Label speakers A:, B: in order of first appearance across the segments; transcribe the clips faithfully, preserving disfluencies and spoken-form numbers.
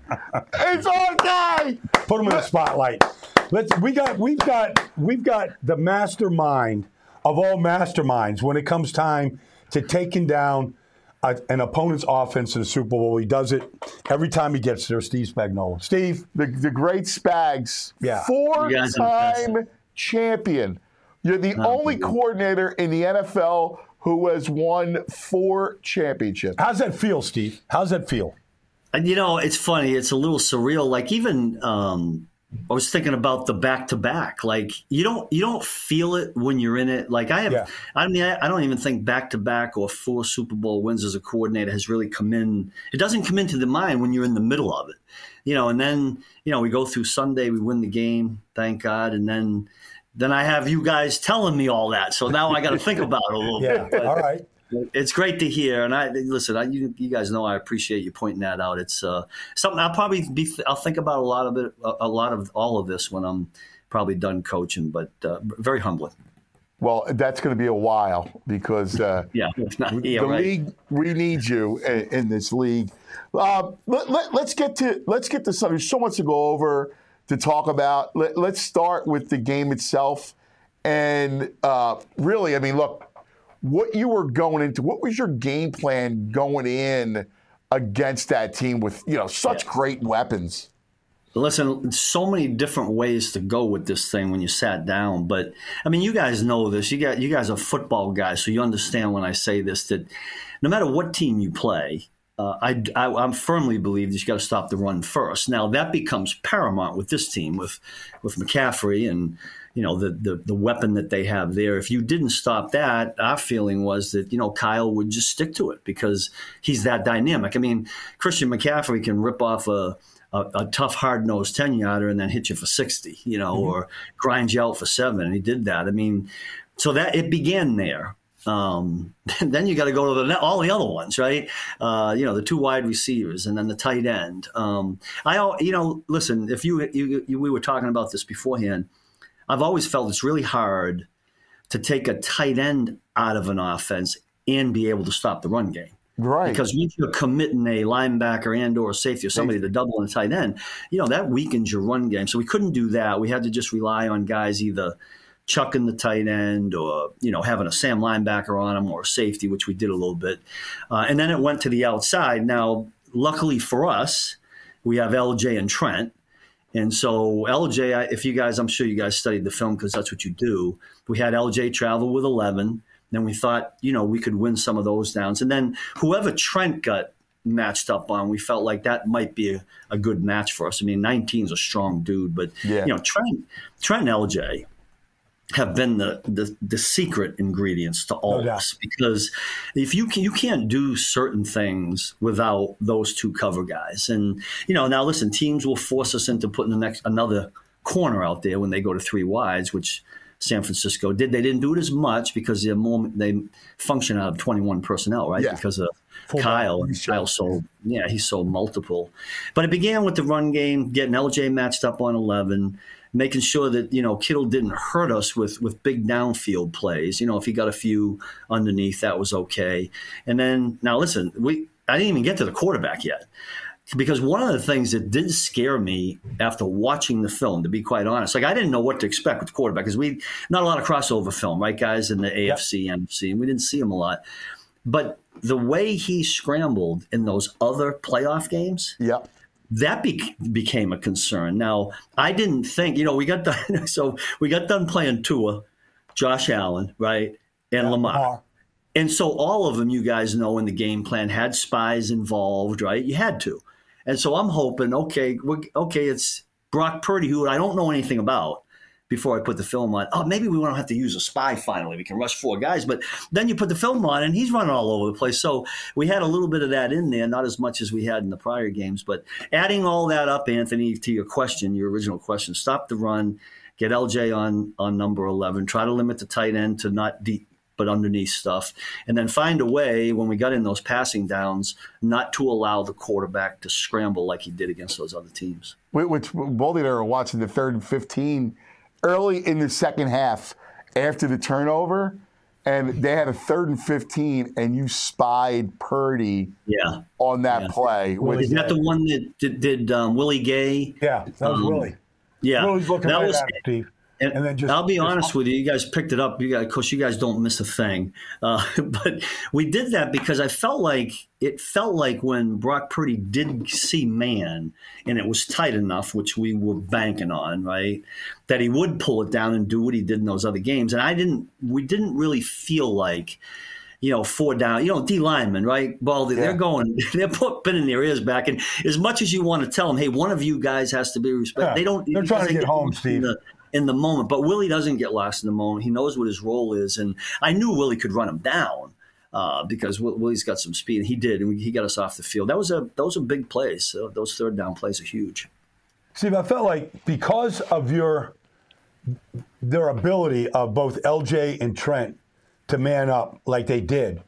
A: It's our guy.
B: Put him in the spotlight. Let's. We got. We've got. We've got the mastermind of all masterminds when it comes time to taking down a, an opponent's offense in the Super Bowl. He does it every time he gets there. Steve Spagnuolo. Steve,
A: the the great Spags,
B: yeah.
A: four-time champion. You're the
C: oh,
A: only coordinator in the N F L who has won four championships.
B: How's that feel, Steve? How's that feel?
C: And, you know, it's funny. It's a little surreal. Like, even um, I was thinking about the back-to-back. Like, you don't you don't feel it when you're in it. Like, I have yeah. – I mean, I, I don't even think back-to-back or four Super Bowl wins as a coordinator has really come in – it doesn't come into the mind when you're in the middle of it. You know, and then, you know, we go through Sunday, we win the game, thank God, and then – then I have you guys telling me all that. So now I got to think about it a little
B: yeah.
C: bit. But
B: all right.
C: It's great to hear. And I listen, I, you, you guys know I appreciate you pointing that out. It's uh, something I'll probably be, I'll think about a lot of it, a, a lot of all of this when I'm probably done coaching, but uh, very humbling.
A: Well, that's going to be a while because uh,
C: yeah, not, yeah,
A: the
C: right.
A: league, we need you in, in this league. Uh, let, let, let's get to, let's get to something. There's so much to go over, to talk about. Let, let's start with the game itself. And uh, really, I mean, look, what you were going into, what was your game plan going in against that team with, you know, such yeah. great weapons?
C: Listen, so many different ways to go with this thing when you sat down. But, I mean, you guys know this. You got, you guys are football guys, so you understand when I say this, that no matter what team you play, Uh, I, I, I firmly believe that you got to stop the run first. Now that becomes paramount with this team, with with McCaffrey and you know the, the the weapon that they have there. If you didn't stop that, our feeling was that you know Kyle would just stick to it because he's that dynamic. I mean, Christian McCaffrey can rip off a a, a tough, hard-nosed ten-yarder and then hit you for sixty, you know, mm-hmm. or grind you out for seven, and he did that. I mean, so that it began there. Um, then you got to go to the, all the other ones, right? Uh, you know, the two wide receivers and then the tight end. Um, I, you know, listen, if you, you, you, we were talking about this beforehand, I've always felt it's really hard to take a tight end out of an offense and be able to stop the run game.
A: Right.
C: Because once you're committing a linebacker and or safety or somebody to double in a tight end, you know, that weakens your run game. So we couldn't do that. We had to just rely on guys either chucking the tight end or, you know, having a Sam linebacker on him or a safety, which we did a little bit. Uh, and then it went to the outside. Now, luckily for us, we have L J and Trent. And so L J, if you guys, I'm sure you guys studied the film because that's what you do. We had L J travel with eleven. Then we thought, you know, we could win some of those downs. And then whoever Trent got matched up on, we felt like that might be a, a good match for us. I mean, nineteen is a strong dude, but, yeah. you know, Trent, Trent and L J have been the, the the secret ingredients to all
B: no
C: of us, because if you can, you can't do certain things without those two cover guys. And you know, now listen, teams will force us into putting the next another corner out there when they go to three wides, which San Francisco did. They didn't do it as much because they're more, they function out of twenty-one personnel, right?
A: Yeah.
C: Because of
A: Full
C: Kyle. And Kyle sold, yeah, he sold multiple. But it began with the run game, getting L J matched up on eleven. Making sure that, you know, Kittle didn't hurt us with, with big downfield plays. You know, if he got a few underneath, that was okay. And then, now listen, we I didn't even get to the quarterback yet. Because one of the things that did scare me after watching the film, to be quite honest, like I didn't know what to expect with the quarterback because we not a lot of crossover film, right, guys, in the A F C, yep. N F C, and we didn't see him a lot. But the way he scrambled in those other playoff games,
A: yep.
C: that be- became a concern. Now, I didn't think, you know, we got done, so we got done playing Tua, Josh Allen, right, and
B: yeah,
C: Lamar.
B: Lamar.
C: And so all of them, you guys know, in the game plan had spies involved, right? You had to. And so I'm hoping, okay, we're, okay, it's Brock Purdy, who I don't know anything about before I put the film on. Oh, maybe we won't have to use a spy finally. We can rush four guys. But then you put the film on, and he's running all over the place. So we had a little bit of that in there, not as much as we had in the prior games. But adding all that up, Anthony, to your question, your original question, stop the run, get L J on, on number eleven, try to limit the tight end to not deep, but underneath stuff, and then find a way when we got in those passing downs not to allow the quarterback to scramble like he did against those other teams.
A: Which Baldy and I were watching the third and fifteen early in the second half after the turnover, and they had a third and fifteen, and you spied Purdy
C: Yeah.
A: on that
C: Yeah.
A: play.
B: Willie
C: Is that the one that did, did um, Willie Gay?
B: Yeah, that was
C: Um,
B: Willie.
C: Yeah.
B: Willie's looking
C: That
B: right
C: was-
B: at it, Steve.
C: And,
B: And then just-
C: I'll be
B: just-
C: honest with you, you guys picked it up. You guys, of course, you guys don't miss a thing. Uh, but we did that because I felt like it felt like when Brock Purdy did see man and it was tight enough, which we were banking on, right, that he would pull it down and do what he did in those other games. And I didn't. We didn't really feel like. You know, four down, you know, D linemen, right? Well, they're
A: Yeah.
C: going, they're putting their ears back. And as much as you want to tell them, hey, one of you guys has to be respected,
B: Yeah.
C: they don't.
B: They're trying to
C: because
B: get home,
C: lost in
B: Steve.
C: the- in the moment. But Willie doesn't get lost in the moment. He knows what his role is. And I knew Willie could run him down uh, because Will- Willie's got some speed. And he did. And he got us off the field. That was a those are big plays. So those third down plays are huge.
B: Steve, I felt like because of your their ability of both L J and Trent to man up like they did,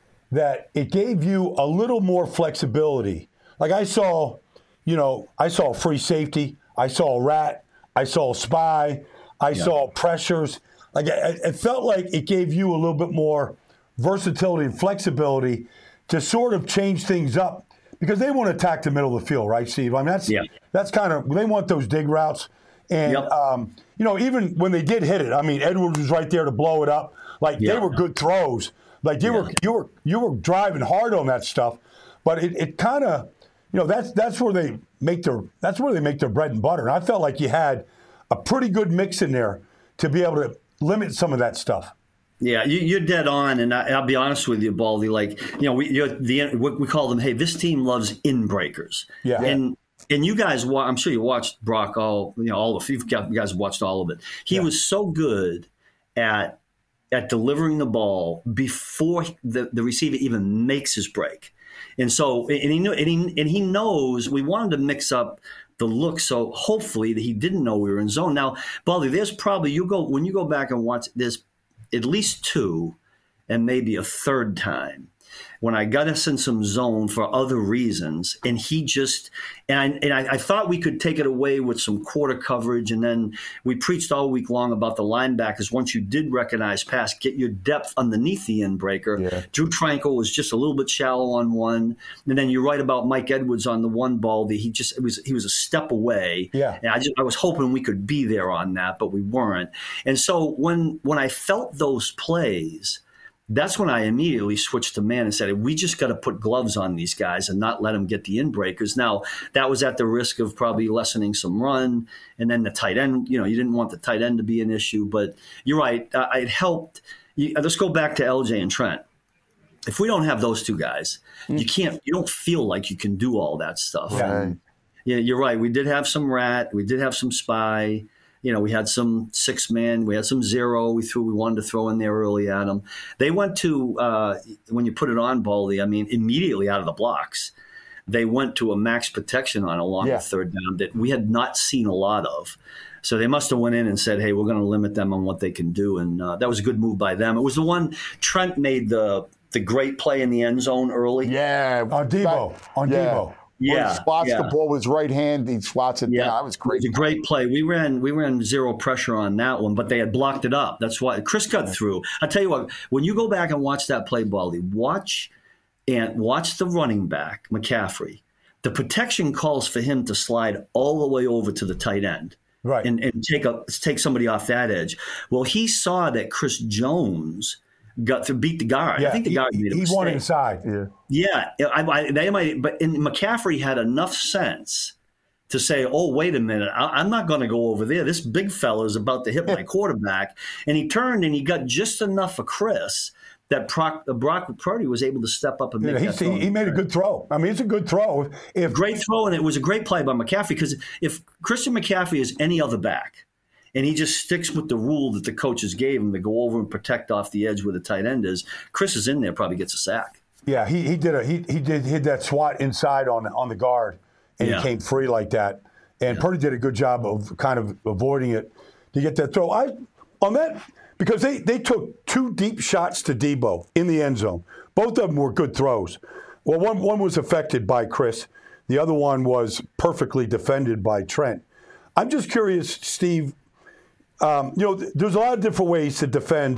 B: that it gave you a little more flexibility. Like I saw, you know, I saw free safety, I saw a rat, I saw a spy, I
C: Yeah.
B: saw pressures. Like it, it felt like it gave you a little bit more versatility and flexibility to sort of change things up because they want to attack the middle of the field, right, Steve? I mean, that's
C: Yeah.
B: that's kind of they want those dig routes, and
C: Yep.
B: um, you know, even when they did hit it, I mean, Edwards was right there to blow it up. Like
C: Yeah.
B: they were good throws. Like you
C: Yeah.
B: were you were you were driving hard on that stuff, but it, it kind of, you know, that's that's where they make their that's where they make their bread and butter. And I felt like you had a pretty good mix in there to be able to limit some of that stuff.
C: Yeah, you, you're dead on, and I, I'll be honest with you, Baldy. Like, you know, we you're the we, we call them. Hey, this team loves in breakers.
B: Yeah.
C: and and you guys, wa- I'm sure you watched Brock all. You know, all of you got- you guys watched all of it. He
B: Yeah.
C: was so good at at delivering the ball before the, the receiver even makes his break, and so and he knew and he and he knows we wanted to mix up the look, so hopefully that he didn't know we were in zone. Now, Baldy, there's probably you go when you go back and watch there's at least two and maybe a third time when I got us in some zone for other reasons, and he just and I and I, I thought we could take it away with some quarter coverage, and then we preached all week long about the linebackers. Once you did recognize pass, get your depth underneath the end breaker.
A: Yeah.
C: Drew Tranquil was just a little bit shallow on one, and then you're right about Mike Edwards on the one ball that he just it was he was a step away.
B: Yeah.
C: And I just I was hoping we could be there on that, but we weren't. And so when when I felt those plays, that's when I immediately switched to man and said, we just got to put gloves on these guys and not let them get the in breakers. Now, that was at the risk of probably lessening some run. And then the tight end, you know, you didn't want the tight end to be an issue. But you're right. Uh, it helped. You, let's go back to L J and Trent. If we don't have those two guys, you can't, you don't feel like you can do all that stuff.
B: Yeah.
C: And, yeah, you're right. We did have some rat. We did have some spy. You know, we had some six man, we had some zero. We threw, we wanted to throw in there early at them. They went to uh, when you put it on, Baldy. I mean, immediately out of the blocks, they went to a max protection on along
A: Yeah.
C: the third down that we had not seen a lot of. So they must have went in and said, "Hey, we're going to limit them on what they can do," and uh, that was a good move by them. It was the one Trent made the the great play in the end zone early.
A: Yeah.
B: On Debo, on
A: yeah.
B: Debo.
A: Where
C: Yeah,
A: he swats
C: yeah.
A: the ball with his right hand. He swats it
C: Yeah,
A: down. That was great.
C: It was a great play. We ran we ran zero pressure on that one, but they had blocked it up. That's why Chris got through. I tell you what, when you go back and watch that play, Baldy, watch and watch the running back McCaffrey. The protection calls for him to slide all the way over to the tight end,
B: Right.
C: and and take a take somebody off that edge. Well, he saw that Chris Jones got to beat the guard.
B: Yeah,
C: I think the
B: he-
C: guard made a
B: he
C: mistake.
B: won inside.
A: Yeah.
C: Yeah, I, I, they might, but and McCaffrey had enough sense to say, "Oh, wait a minute, I, I'm not going to go over there. This big fella is about to hit my quarterback." And he turned and he got just enough of Chris that Brock, uh, Brock Purdy was able to step up and make
B: Yeah,
C: that throw.
B: he, he made a good throw. I mean, it's a good throw. If
C: Great throw, and it was a great play by McCaffrey because if Christian McCaffrey is any other back, and he just sticks with the rule that the coaches gave him to go over and protect off the edge where the tight end is, Chris is in there, probably gets a sack.
B: Yeah, he, he did a he he did hit that swat inside on on the guard, and
C: Yeah.
B: he came free like that. And Purdy did a good job of kind of avoiding it to get that throw. I on that because they they took two deep shots to Debo in the end zone. Both of them were good throws. Well, one one was affected by Chris. The other one was perfectly defended by Trent. I'm just curious, Steve. Um, you know, there's a lot of different ways to defend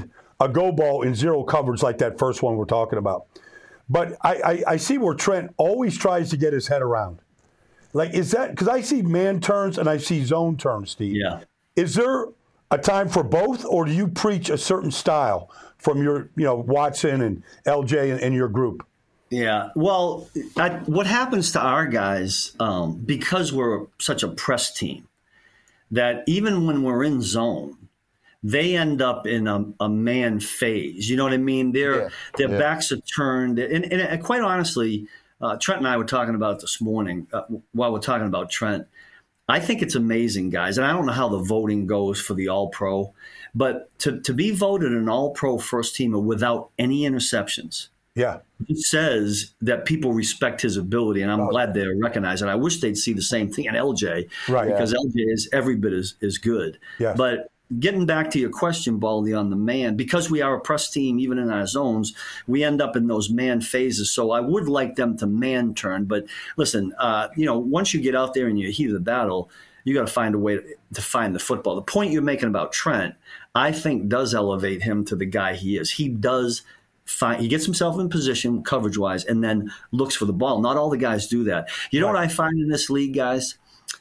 B: a go ball in zero coverage like that first one we're talking about. But I, I, I see where Trent always tries to get his head around. Like, is that because I see man turns and I see zone turns, Steve?
C: Yeah.
B: Is there a time for both, or do you preach a certain style from your, you know, Watson and L J and, and your group?
C: Yeah. Well, I, what happens to our guys, um, because we're such a press team, that even when we're in zone, they end up in a, a man phase. You know what I mean? Their yeah. their yeah. backs are turned. And, and, and quite honestly, uh, Trent and I were talking about it this morning uh, while we're talking about Trent. I think it's amazing, guys. And I don't know how the voting goes for the All-Pro, but to, to be voted an All-Pro first teamer without any interceptions,
B: yeah,
C: it says that people respect his ability, and I'm oh. glad they recognize it. I wish they'd see the same thing in L J,
B: right?
C: Because
B: yeah.
C: L J is every bit as, as good.
B: Yes.
C: But getting back to your question, Baldy, on the man, because we are a press team, even in our zones, we end up in those man phases. So I would like them to man turn. But listen, uh, you know, once you get out there and you heat of the battle, you got to find a way to, to find the football. The point you're making about Trent, I think, does elevate him to the guy he is. He does find, he gets himself in position coverage wise and then looks for the ball. Not all the guys do that. You know right. what I find in this league, guys?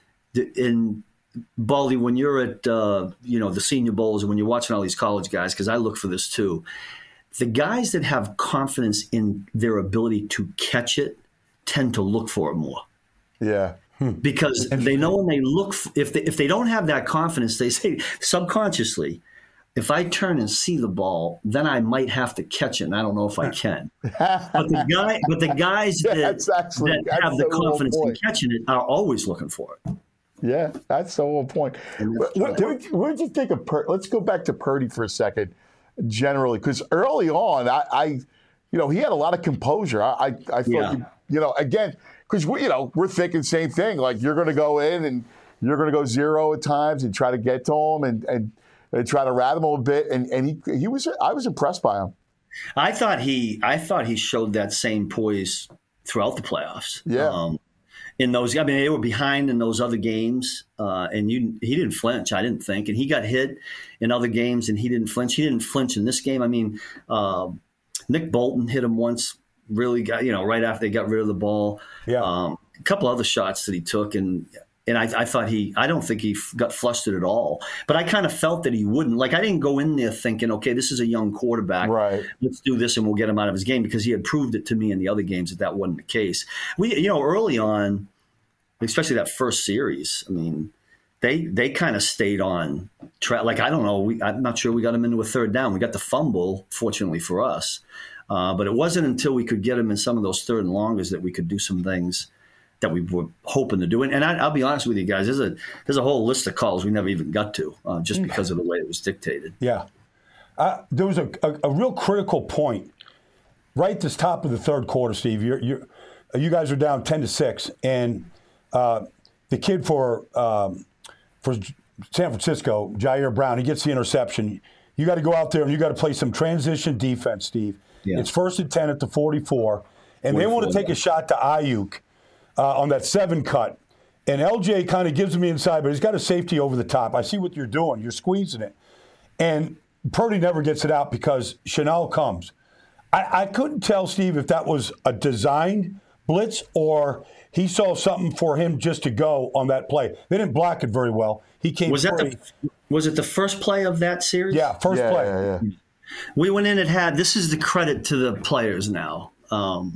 C: In Baldy, when you're at uh, you know the Senior Bowls and when you're watching all these college guys, because I look for this too, the guys that have confidence in their ability to catch it tend to look for it more.
A: Yeah,
B: hmm.
C: because they know when they look f- if they if they don't have that confidence, they say subconsciously, if I turn and see the ball, then I might have to catch it, and I don't know if I can. But the guy, but the guys
A: yeah,
C: that,
A: actually,
C: that have the confidence in catching it are always looking for it.
A: Yeah, that's the whole point. What, what, what did you think of Purdy? Let's go back to Purdy for a second, generally, because early on, I, I, you know, he had a lot of composure. I, I, I thought,
C: yeah.
A: you, you know, again, because we, you know, we're thinking same thing. Like you're going to go in and you're going to go zero at times and try to get to him and and, and try to rat him a bit. And and he he was I was impressed by him.
C: I thought he I thought he showed that same poise throughout the playoffs.
A: Yeah.
C: Um, In those, I mean, they were behind in those other games, uh, and you, he didn't flinch, I didn't think. And he got hit in other games, and he didn't flinch. He didn't flinch in this game. I mean, uh, Nick Bolton hit him once, really got, you know, right after they got rid of the ball.
B: Yeah.
C: Um, a couple other shots that he took, and and I, I thought he, I don't think he got flustered at all. But I kind of felt that he wouldn't. Like, I didn't go in there thinking, okay, this is a young quarterback.
A: Right.
C: Let's do this and we'll get him out of his game, because he had proved it to me in the other games that that wasn't the case. We, you know, early on, especially that first series, I mean, they they kind of stayed on track. Like, I don't know, we, I'm not sure we got them into a third down. We got the fumble, fortunately for us. Uh, but it wasn't until we could get them in some of those third and longers that we could do some things that we were hoping to do. And, and I, I'll be honest with you guys, there's a there's a whole list of calls we never even got to, uh, just because of the way it was dictated.
B: Yeah. Uh, there was a, a, a real critical point right at the top of the third quarter, Steve. You're, you're, you guys are down ten to six, and Uh, the kid for um, for San Francisco, Jair Brown, he gets the interception. You got to go out there and you got to play some transition defense, Steve. Yeah. It's first and ten at the forty-four, and they want to take a shot to Ayuk uh, on that seven cut. And L J kind of gives him the inside, but he's got a safety over the top. I see what you're doing. You're squeezing it. And Purdy never gets it out because Chanel comes. I, I couldn't tell, Steve, if that was a designed blitz or – he saw something for him just to go on that play. They didn't block it very well. He came
C: was that
B: free.
C: the, was it the first play of that series?
B: Yeah, first
A: yeah,
B: play.
A: Yeah, yeah.
C: We went in and had – this is the credit to the players now. Um,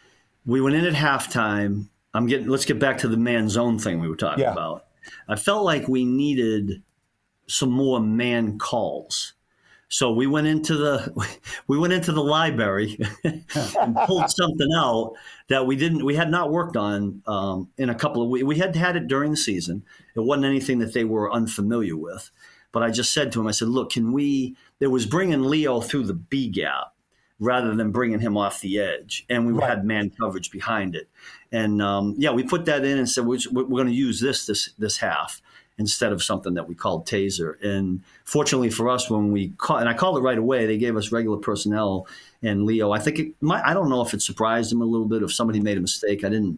C: we went in at halftime. I'm getting. Let's get back to the man zone thing we were talking
B: yeah.
C: about. I felt like we needed some more man calls. So we went into the we went into the library and pulled something out that we didn't we had not worked on um, in a couple of weeks. We had had it during the season. It wasn't anything that they were unfamiliar with. But I just said to him, I said, look, can we? It was bringing Leo through the B gap rather than bringing him off the edge, and we right. had man coverage behind it. And um, yeah, we put that in and said we're, we're going to use this this this half instead of something that we called taser. And fortunately for us, when we call, and I called it right away, they gave us regular personnel and Leo. I think it might, I don't know if it surprised him a little bit if somebody made a mistake. I didn't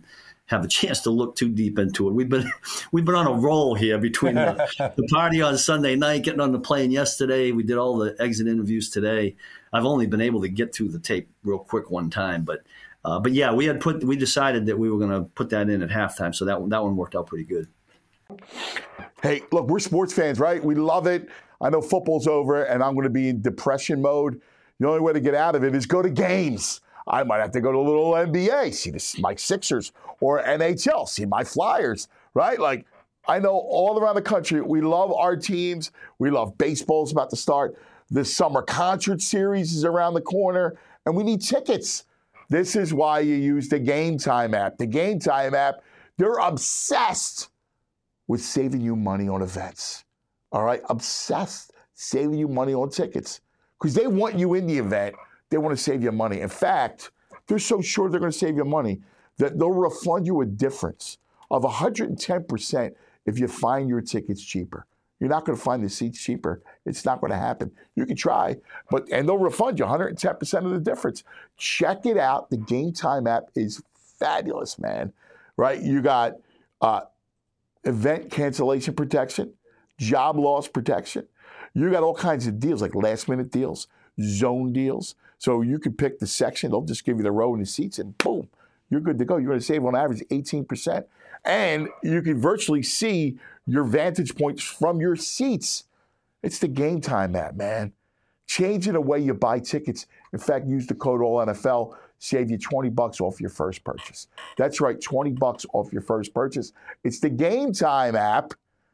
C: have a chance to look too deep into it. We've been we've been on a roll here between the, the party on Sunday night, getting on the plane yesterday. We did all the exit interviews today. I've only been able to get through the tape real quick one time, but uh, but yeah, we had put we decided that we were going to put that in at halftime, so that that one worked out pretty good.
A: Hey, look, we're sports fans, right? We love it. I know football's over, and I'm going to be in depression mode. The only way to get out of it is go to games. I might have to go to a little N B A, see the, my Sixers, or N H L, see my Flyers, right? Like, I know all around the country, we love our teams. We love baseball's about to start. The summer concert series is around the corner, and we need tickets. This is why you use the Game Time app. The Game Time app, they're obsessed with saving you money on events. All right? Obsessed saving you money on tickets. Because they want you in the event. They want to save you money. In fact, they're so sure they're going to save you money that they'll refund you a difference of one hundred ten percent if you find your tickets cheaper. You're not going to find the seats cheaper. It's not going to happen. You can try, but and they'll refund you one hundred ten percent of the difference. Check it out. The Game Time app is fabulous, man. Right? You got uh, event cancellation protection, job loss protection. You got all kinds of deals, like last-minute deals, zone deals. So you can pick the section. They'll just give you the row and the seats, and boom, you're good to go. You're going to save on average eighteen percent. And you can virtually see your vantage points from your seats. It's the Game Time app, man. Changing the way you buy tickets. In fact, use the code all N F L, save you twenty bucks off your first purchase. That's right, twenty bucks off your first purchase. It's the Game Time app.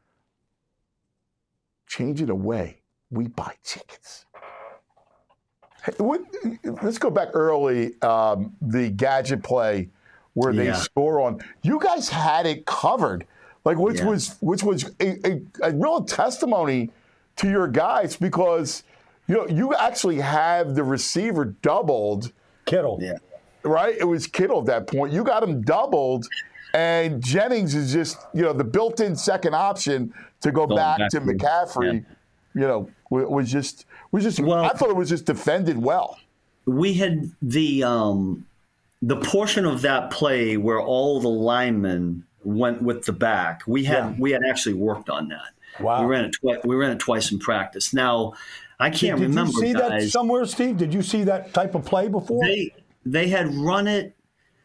A: Changing the way we buy tickets. Hey, what, let's go back early, um, the gadget play where they
C: Yeah.
A: score on. You guys had it covered, like which
C: Yeah.
A: was which was a, a, a real testimony to your guys because you know you actually have the receiver doubled,
B: Kittle.
C: Yeah.
A: right? It was Kittle at that point. You got him doubled, and Jennings is just you know the built-in second option to go
C: Going
A: back,
C: back
A: to
C: to-
A: McCaffrey. You know, wa- was just was just.
C: Well-
A: I thought it was just defended well.
C: We had the um, the portion of that play where all the linemen went with the back. We had
B: Yeah.
C: we had actually worked on that.
B: Wow.
C: We ran it twice. We ran it twice in practice. Now, I can't
B: Did
C: remember.
B: you see that
C: guys.
B: somewhere, Steve? Did you see that type of play before?
C: They they had run it.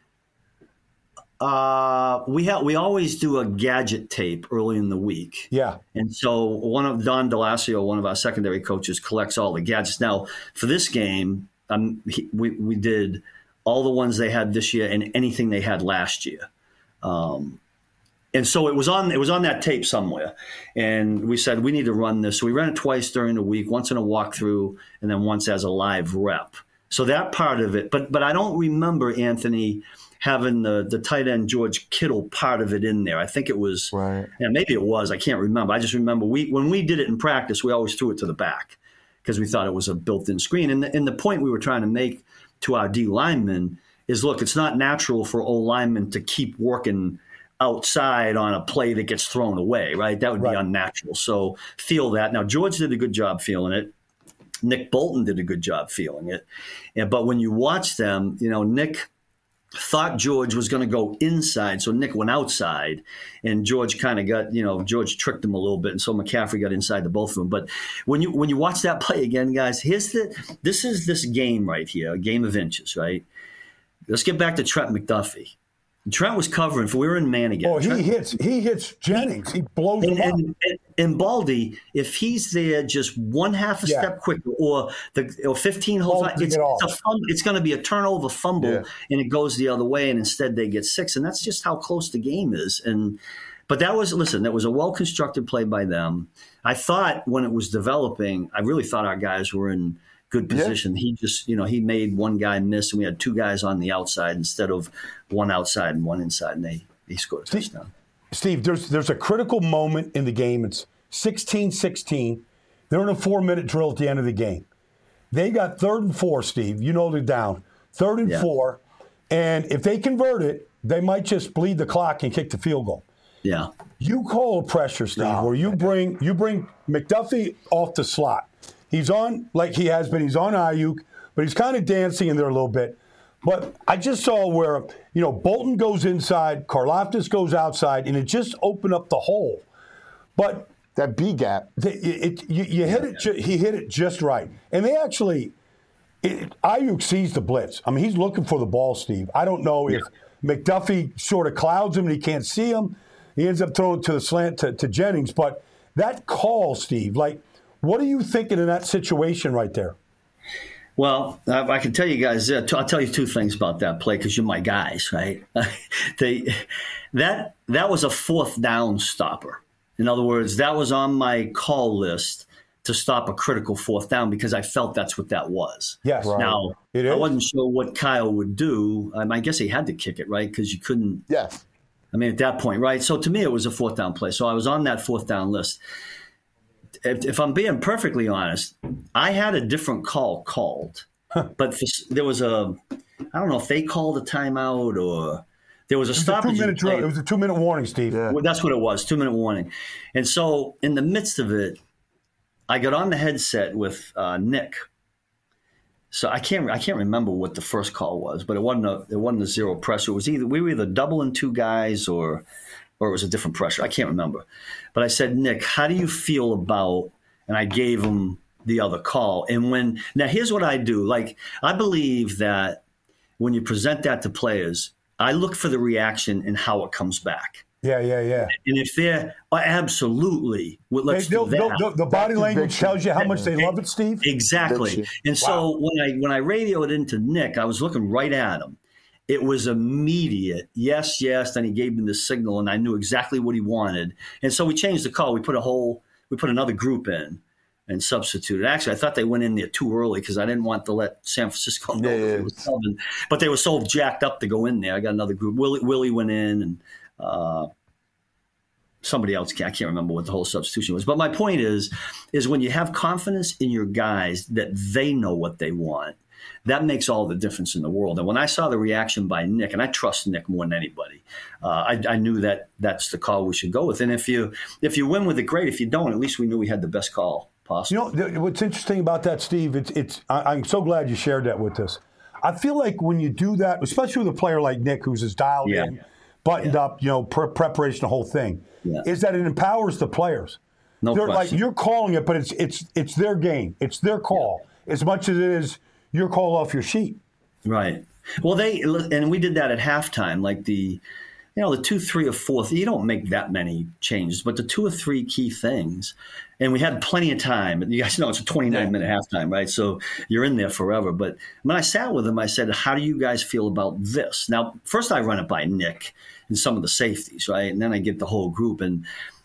C: Uh, we have we always do a gadget tape early in the week.
B: yeah.
C: And so one of Don Delasio, one of our secondary coaches, collects all the gadgets. Now for this game, um, he, we we did all the ones they had this year and anything they had last year. Um, and so it was on it was on that tape somewhere, and we said we need to run this. So we ran it twice during the week, once in a walkthrough, and then once as a live rep. So that part of it, but but I don't remember Anthony having the the tight end George Kittle part of it in there. I think it was,
A: Right.
C: yeah, maybe it was. I can't remember. I just remember we when we did it in practice, we always threw it to the back because we thought it was a built-in screen. And the, and the point we were trying to make to our D linemen is, look, it's not natural for O linemen to keep working outside on a play that gets thrown away, right? That would
B: Right.
C: be unnatural. So feel that. Now, George did a good job feeling it. Nick Bolton did a good job feeling it. And, but when you watch them, you know, Nick thought George was going to go inside, so Nick went outside, and George kind of got, you know, George tricked him a little bit, and so McCaffrey got inside the both of them. But when you when you watch that play again, guys, here's the this is this game right here, a game of inches, right? Let's get back to Trent McDuffie. Trent was covering for we were in man again.
B: Oh, he
C: Trent,
B: hits. He hits Jennings. He blows
C: and,
B: him up.
C: and, and, and Baldy, if he's there just one half a
B: Yeah.
C: step quicker, or the or fifteen holds,
B: Baldy
C: it's,
B: get off.
C: it's a fumble, it's going to be a turnover fumble,
A: Yeah.
C: and it goes the other way, and instead they get six, and that's just how close the game is. And but that was listen, that was a well constructed play by them. I thought when it was developing, I really thought our guys were in good position. He just, you know, he made one guy miss, and we had two guys on the outside instead of one outside and one inside, and they he scored a touchdown.
B: Steve, there's there's a critical moment in the game. It's sixteen sixteen. They're in a four-minute drill at the end of the game. They got third and four, Steve. You know they're down. Third and
C: Yeah.
B: four. And if they convert it, they might just bleed the clock and kick the field goal.
C: Yeah.
B: You call pressure, Steve,
A: No.
B: where you bring you bring McDuffie off the slot. He's on, like he has been, he's on Ayuk, but he's kind of dancing in there a little bit. But I just saw where, you know, Bolton goes inside, Karlaftis goes outside, and it just opened up the hole. But
A: that B gap,
B: the, it, it, you, you hit it. Ju- he hit it just right, and they actually. It, Ayuk sees the blitz. I mean, he's looking for the ball, Steve. I don't know if yeah. McDuffie sort of clouds him and he can't see him. He ends up throwing to the slant to, to Jennings. But that call, Steve, like, what are you thinking in that situation right there?
C: Well, I, I can tell you guys, uh, t- I'll tell you two things about that play because you're my guys, right? they, that that was a fourth down stopper. In other words, that was on my call list to stop a critical fourth down because I felt that's what that was.
B: Yes.
A: Right.
C: Now,
B: It
C: I
B: is.
C: wasn't sure what Kyle would do. Um, I guess he had to kick it, right? Because you couldn't.
A: yes.
C: I mean, at that point, right? So to me, it was a fourth down play. So I was on that fourth down list. If, if I'm being perfectly honest, I had a different call called, but for, there was a, I don't know if they called a timeout or there was a
B: It was a
C: stoppage.
B: two-minute drill. It was a two-minute warning, Steve.
A: Yeah.
C: Well, that's what it was, two-minute warning. And so in the midst of it, I got on the headset with uh, Nick. So I can't I can't remember what the first call was, but it wasn't a it wasn't a zero pressure. It was either we were either doubling two guys or or it was a different pressure. I can't remember. But I said, Nick, how do you feel about? And I gave him the other call. And when now here's what I do. Like I believe that when you present that to players, I look for the reaction and how it comes back.
B: Yeah, yeah, yeah.
C: And if they're oh, absolutely, well, let's
B: They- they'll-
C: do that.
B: they'll- the body
A: That
B: language
A: conviction.
B: tells you how much they love it, Steve.
C: Exactly.
A: Conviction.
C: And so when I when I radioed into Nick, I was looking right at him. It was immediate. Yes, yes. Then he gave me the signal, and I knew exactly what he wanted. And so we changed the call. We put a whole, we put another group in and substituted. Actually, I thought they went in there too early because I didn't want to let San Francisco know
A: Yeah,
C: that
A: yeah.
C: it was coming. But they were so jacked up to go in there. I got another group. Willie, Willie went in, and uh, somebody else. I can't remember what the whole substitution was. But my point is, is when you have confidence in your guys that they know what they want, that makes all the difference in the world. And when I saw the reaction by Nick, and I trust Nick more than anybody, uh, I, I knew that that's the call we should go with. And if you if you win with it, great. If you don't, at least we knew we had the best call possible.
B: You know, th- what's interesting about that, Steve, it's, it's I, I'm so glad you shared that with us. I feel like when you do that, especially with a player like Nick, who's as dialed
C: Yeah.
B: in, buttoned
C: Yeah.
B: up, you know, pre- preparation, the whole thing,
C: Yeah.
B: is that it empowers the players.
C: No
B: They're like
C: question.
B: you're calling it, but it's it's it's their game, it's their call, as much as it is your call off your sheet.
C: Right. Well, they and we did that at halftime. Like the, you know, the two, three, or fourth. You don't make that many changes, but the two or three key things, and we had plenty of time. You guys know it's a twenty-nine minute halftime, right? So you're in there forever. But when I sat with them, I said, "How do you guys feel about this?" Now, first I run it by Nick and some of the safeties, right, and then I get the whole group and.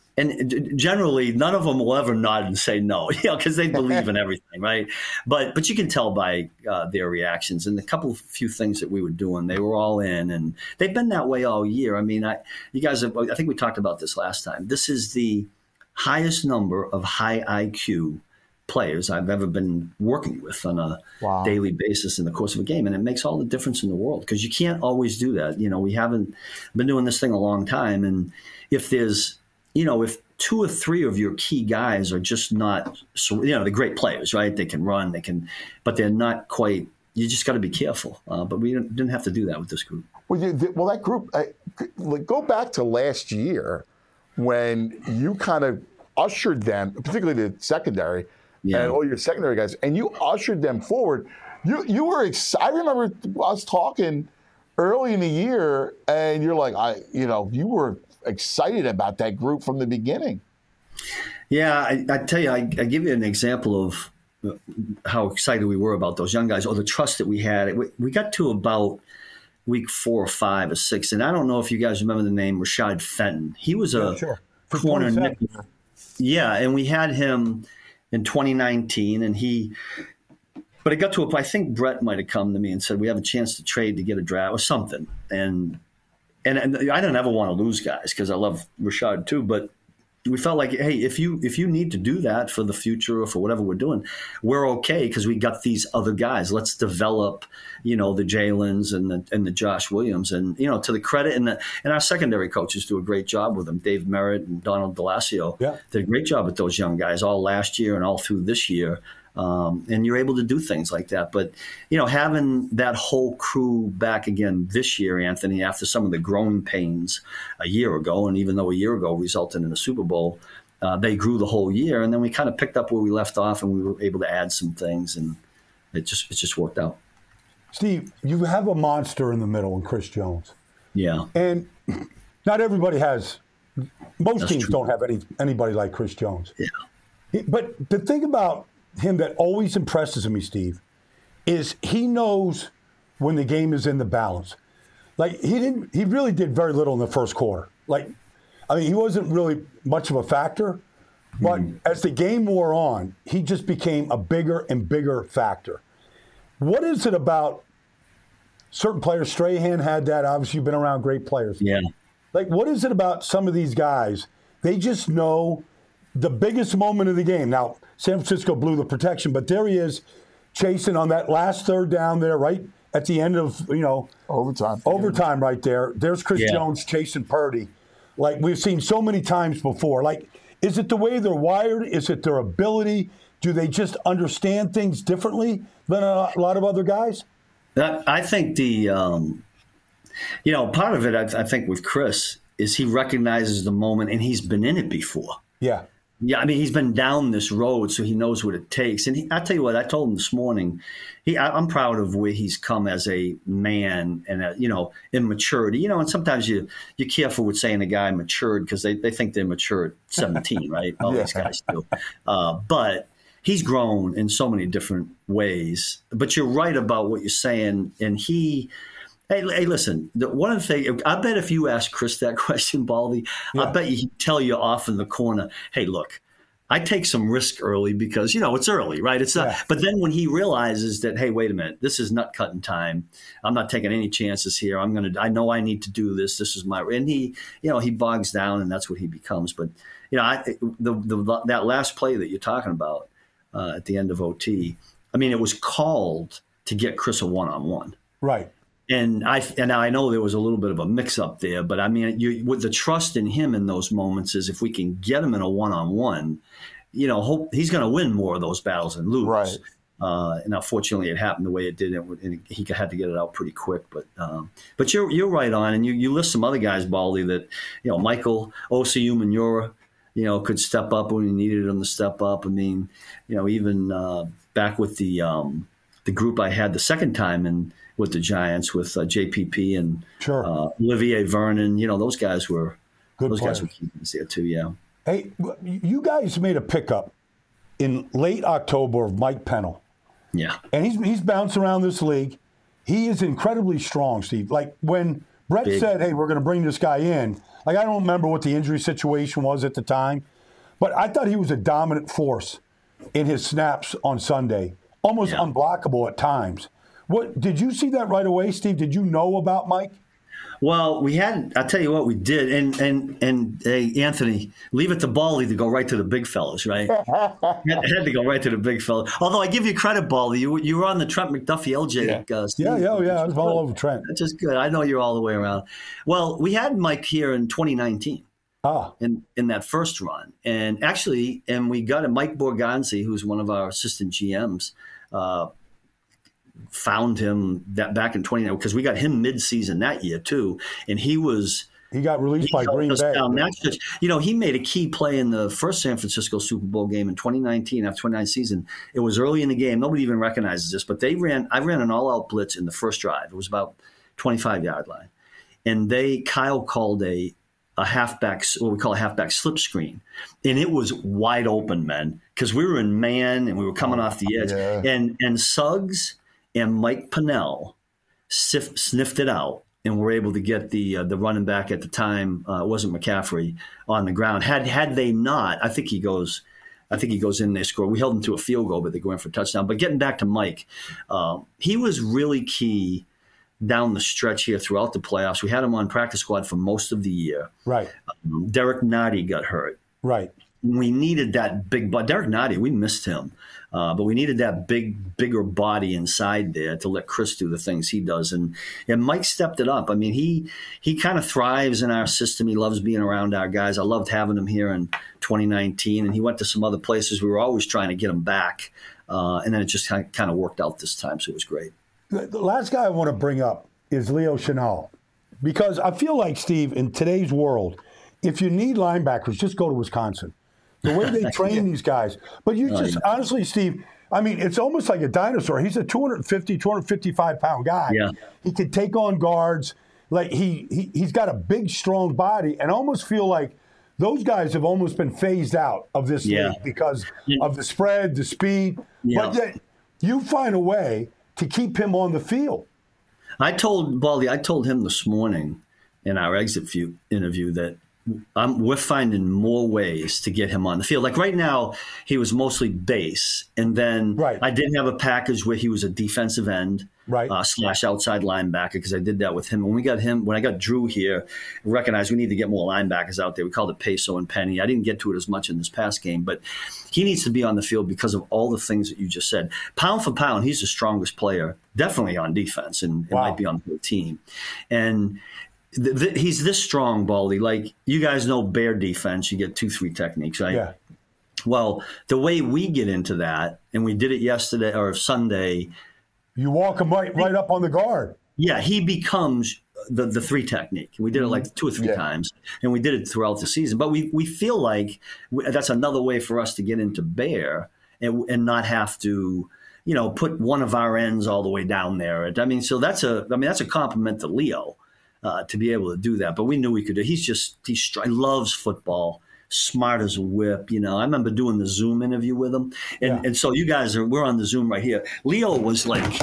C: And generally, none of them will ever nod and say no, you know, because they believe in everything, right? But but you can tell by uh, their reactions and a couple of few things that we were doing. They were all in, and they've been that way all year. I mean, I you guys, have, I think we talked about this last time. This is the highest number of high I Q players I've ever been working with on a
A: Wow.
C: daily basis in the course of a game, and it makes all the difference in the world because you can't always do that. You know, we haven't been doing this thing a long time, and if there's you know, if two or three of your key guys are just not, you know, they're great players, right? They can run, they can, but they're not quite. You just got to be careful. Uh, but we didn't, didn't have to do that with this group.
A: Well, you, the, well, that group. I, like, go back to last year when you kind of ushered them, particularly the secondary
C: Yeah.
A: and all your secondary guys, and you ushered them forward. You you were. Ex- I remember us talking early in the year, and you're like, I, you know, you were excited about that group from the beginning.
C: Yeah, I, I tell you, I, I give you an example of how excited we were about those young guys, or the trust that we had. We, we got to about week four or five or six, and I don't know if you guys remember the name Rashad Fenton. He was a
B: Yeah, sure. For
C: corner
B: twenty-seven.
C: nickel. Yeah, and we had him in twenty nineteen, and he. But it got to a. I think Brett might have come to me and said we have a chance to trade to get a draft or something, and. And, and I don't ever want to lose guys because I love Rashad too. But we felt like, hey, if you if you need to do that for the future or for whatever we're doing, we're okay because we got these other guys. Let's develop, you know, the Jalen's and the and the Josh Williams, and you know, to the credit and the and our secondary coaches do a great job with them. Dave Merritt and Donald Delasio
B: Yeah.
C: did a great job with those young guys all last year and all through this year. Um, and you're able to do things like that. But, you know, having that whole crew back again this year, Anthony, after some of the growing pains a year ago, and even though a year ago resulted in a Super Bowl, uh, they grew the whole year. And then we kind of picked up where we left off, and we were able to add some things, and it just it just worked out.
B: Steve, you have a monster in the middle in Chris Jones.
C: Yeah.
B: And not everybody has, most
C: That's
B: teams
C: true.
B: don't have any anybody like Chris Jones.
C: Yeah.
B: But the thing about him that always impresses me, Steve, is he knows when the game is in the balance. Like he didn't, he really did very little in the first quarter. Like, I mean, he wasn't really much of a factor, but mm-hmm. as the game wore on, he just became a bigger and bigger factor. What is it about certain players? Strahan had that. Obviously, you've been around great players.
C: Yeah.
B: Like, what is it about some of these guys? They just know the biggest moment of the game. Now, San Francisco blew the protection, but there he is chasing on that last third down there, right at the end of, you know,
A: overtime.
B: Overtime right there. There's Chris
C: yeah.
B: Jones chasing Purdy. Like we've seen so many times before. Like, is it the way they're wired? Is it their ability? Do they just understand things differently than a lot of other guys?
C: I think the, um, you know, part of it, I, I think with Chris is he recognizes the moment and he's been in it before.
B: Yeah.
C: Yeah, I mean, he's been down this road, so he knows what it takes. And he, I tell you what, I told him this morning, he, I, I'm proud of where he's come as a man and, a, you know, in maturity. You know, and sometimes you, you're careful with saying a guy matured because they, they think they're mature at seventeen, right? All
A: yeah.
C: these guys do. Uh, but he's grown in so many different ways. But you're right about what you're saying. And he – Hey, hey, listen, the, one of the things, I bet if you ask Chris that question, Baldy, yeah. I bet he'd tell you off in the corner, hey, look, I take some risk early because, you know, it's early, right? It's not. Yeah. But then when he realizes that, hey, wait a minute, this is nut cutting time. I'm not taking any chances here. I'm going to, I know I need to do this. This is my, and he, you know, he bogs down and that's what he becomes. But, you know, I, the, the, that last play that you're talking about uh, at the end of O T, I mean, it was called to get Chris a one-on-one.
B: Right.
C: And I and I know there was a little bit of a mix-up there, but I mean, you, with the trust in him in those moments is if we can get him in a one-on-one, you know, hope he's going to win more of those battles and lose.
A: Right.
C: Uh, and unfortunately, it happened the way it did, and he had to get it out pretty quick. But um, but you're you're right on, and you, you list some other guys, Baldy, that you know, Michael Osayi-Manura, you know, could step up when he needed him to step up. I mean, you know, even uh, back with the um, the group I had the second time and. With the Giants, with uh, J P P and
B: sure.
C: uh, Olivier Vernon, you know, those guys were
B: good.
C: Those
B: players.
C: guys were keeping us there too. Yeah.
B: Hey, you guys made a pickup in late October of Mike Pennell.
C: Yeah.
B: And he's he's bounced around this league. He is incredibly strong, Steve. Like when Brett
C: Big.
B: said, "Hey, we're going to bring this guy in." Like I don't remember what the injury situation was at the time, but I thought he was a dominant force in his snaps on Sunday, almost yeah. unblockable at times. What did you see that right away, Steve? Did you know about Mike?
C: Well, we had. I'll tell you what we did, and and and hey, Anthony, leave it to Baldy to go right to the big fellas, right? had, had to go right to the big fellas. Although I give you credit, Baldy, you you were on the Trent McDuffie L J.
B: Yeah,
C: Uh,
B: yeah, yeah, yeah. I was all over Trent.
C: That's just good. I know you're all the way around. Well, we had Mike here in twenty nineteen.
B: Ah.
C: In in that first run, and actually, and we got a Mike Borgonzi, who's one of our assistant G Ms. Uh, found him that back in twenty nine because we got him mid-season that year too, and he was
B: he got released
C: he
B: by Green Bay.
C: That's just, you know, he made a key play in the first San Francisco Super Bowl game in twenty nineteen after twenty nineteen season. It was early in the game. Nobody even recognizes this, but they ran. I ran an all-out blitz in the first drive. It was about twenty-five yard line, and they Kyle called a a halfback, what we call a halfback slip screen, and it was wide open, man, because we were in man and we were coming off the edge,
A: yeah.
C: and and Suggs and Mike Pennell sif- sniffed it out and were able to get the uh, the running back at the time, uh, it wasn't McCaffrey, on the ground. Had had they not, I think he goes I think he goes in, they score. We held him to a field goal, but they go in for a touchdown. But getting back to Mike, uh, he was really key down the stretch here throughout the playoffs. We had him on practice squad for most of the year.
B: Right.
C: Um, Derek Nottie got hurt.
B: Right.
C: We needed that big body. Derek Nottie, we missed him. Uh, but we needed that big, bigger body inside there to let Chris do the things he does. And and Mike stepped it up. I mean, he he kind of thrives in our system. He loves being around our guys. I loved having him here in twenty nineteen. And he went to some other places. We were always trying to get him back. Uh, and then it just kind of, kind of worked out this time, so it was great.
B: The, the last guy I want to bring up is Leo Chenal, because I feel like, Steve, in today's world, if you need linebackers, just go to Wisconsin. The way they train yeah. these guys. But you just, honestly, Steve, I mean, it's almost like a dinosaur. He's a two fifty, two fifty-five pound guy.
C: Yeah.
B: He can take on guards. Like he, he, he's got a big, strong body, and I almost feel like those guys have almost been phased out of this
C: yeah.
B: league because
C: yeah.
B: of the spread, the speed.
C: Yeah.
B: But yet you find a way to keep him on the field.
C: I told Baldy, I told him this morning in our exit view interview that I'm, we're finding more ways to get him on the field. Like right now, he was mostly base, and then
B: right.
C: I did have a package where he was a defensive end
B: right.
C: uh, slash outside linebacker because I did that with him. When we got him, when I got Drew here, I recognized we need to get more linebackers out there. We called it Peso and Penny. I didn't get to it as much in this past game, but he needs to be on the field because of all the things that you just said. Pound for pound, he's the strongest player, definitely on defense, and
B: wow.
C: it might be on the team. And th- th- he's this strong, Baldy. Like, you guys know bear defense, you get two, three techniques, right?
B: Yeah.
C: Well, the way we get into that, and we did it yesterday or Sunday.
B: You walk him right, right up on the guard.
C: Yeah, he becomes the, the three technique. We did it like two or three
A: yeah.
C: times, and we did it throughout the season. But we, we feel like we, that's another way for us to get into bear and, and not have to, you know, put one of our ends all the way down there. I mean, so that's a, I mean, that's a compliment to Leo uh, to be able to do that. But we knew we could do. He's just, he's, he loves football. Smart as a whip, you know. I remember doing the Zoom interview with him, and,
B: yeah.
C: and so you guys are, we're on the Zoom right here. Leo was like,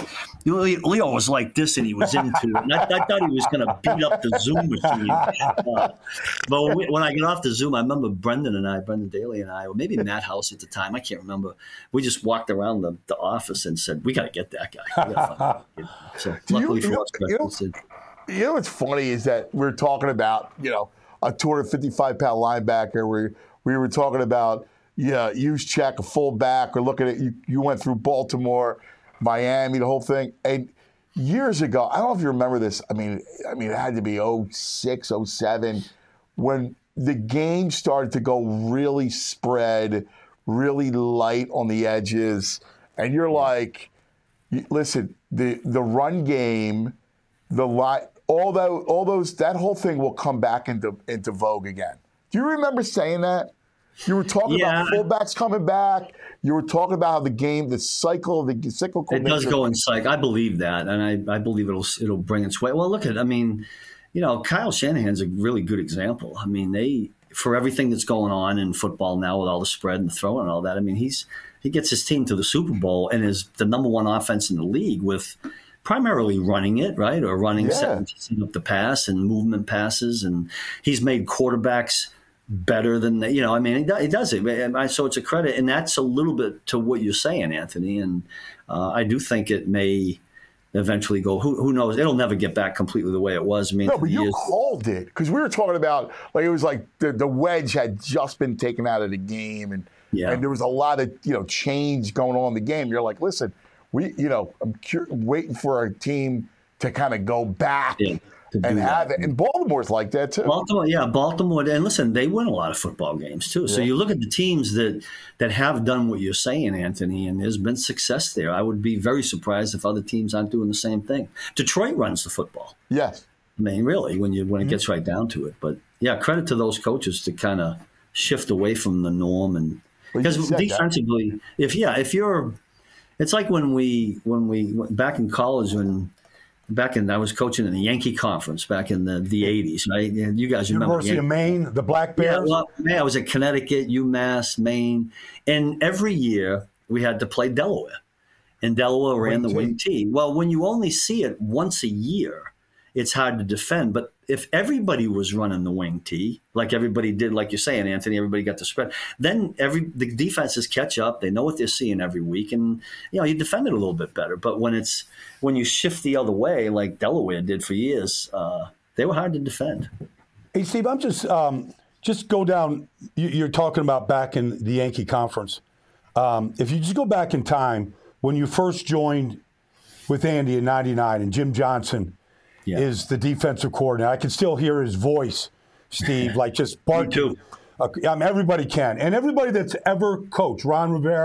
C: Leo was like this, and he was into it. And I, I thought he was going to beat up the Zoom machine. Uh, but when, we, when I got off the Zoom, I remember Brendan and I, Brendan Daly and I, or maybe Matt House at the time, I can't remember. We just walked around the, the office and said, "We got to get that guy." We gotta find him. So
A: Do
C: luckily
A: you,
C: for
A: you
C: us,
A: know, you know,
C: said,
A: you know what's funny is that we're talking about, you know, a two fifty-five pound linebacker. We we were talking about, yeah, use check a fullback. Or looking at you. You went through Baltimore, Miami, the whole thing. And years ago, I don't know if you remember this. I mean, I mean, it had to be oh six, oh seven, when the game started to go really spread, really light on the edges, and you're like, listen, the the run game, the light. All that, all those, that whole thing will come back into into vogue again. Do you remember saying that? You were talking
C: yeah.
A: about fullbacks coming back. You were talking about how the game, the cycle, the cyclical.
C: It does go in cycle. I believe that, and I, I believe it'll it'll bring its way. Well, look at, I mean, you know, Kyle Shanahan's a really good example. I mean, they for everything that's going on in football now with all the spread and the throwing and all that. I mean, he's he gets his team to the Super Bowl and is the number one offense in the league with. Primarily running it, right, or running
A: yeah.
C: setting, setting up the pass and movement passes, and he's made quarterbacks better than they, you know. I mean, he does it, so it's a credit, and that's a little bit to what you're saying, Anthony. And uh, I do think it may eventually go. Who, who knows? It'll never get back completely the way it was. I mean,
A: no, but you
C: years.
A: called it because we were talking about like it was like the, the wedge had just been taken out of the game, and
C: yeah.
A: and there was a lot of you know change going on in the game. You're like, listen. We, you know, I'm cur- waiting for our team to kind of go back
C: yeah,
A: and have it. And Baltimore's like that too.
C: Baltimore, yeah, Baltimore. And listen, they win a lot of football games too. So
A: yeah.
C: you look at the teams that that have done what you're saying, Anthony, and there's been success there. I would be very surprised if other teams aren't doing the same thing. Detroit runs the football.
A: Yes.
C: I mean, really, when you when it
A: Mm-hmm.
C: gets right down to it. But yeah, credit to those coaches to kind of shift away from the norm and because
A: well,
C: defensively, that. if yeah, if you're It's like when we when we back in college when back in I was coaching in the Yankee Conference back in the, the eighties, right? You guys remember
B: University of Maine, the Black Bears.
C: Yeah, well, man, I was at Connecticut, UMass, Maine, and every year we had to play Delaware, and Delaware ran the wing T. Well, when you only see it once a year, it's hard to defend. But if everybody was running the wing T, like everybody did, like you're saying, Anthony, everybody got the spread, then every the defenses catch up. They know what they're seeing every week, and you know you defend it a little bit better. But when it's when you shift the other way, like Delaware did for years, uh, they were hard to defend.
B: Hey, Steve, I'm just um, just go down. You're talking about back in the Yankee Conference. Um, if you just go back in time when you first joined with Andy in ninety-nine, and Jim Johnson. Yeah. Is the defensive coordinator. I can still hear his voice, Steve, like just barking.
C: Me too.
B: Uh, I mean, everybody can. And everybody that's ever coached, Ron Rivera,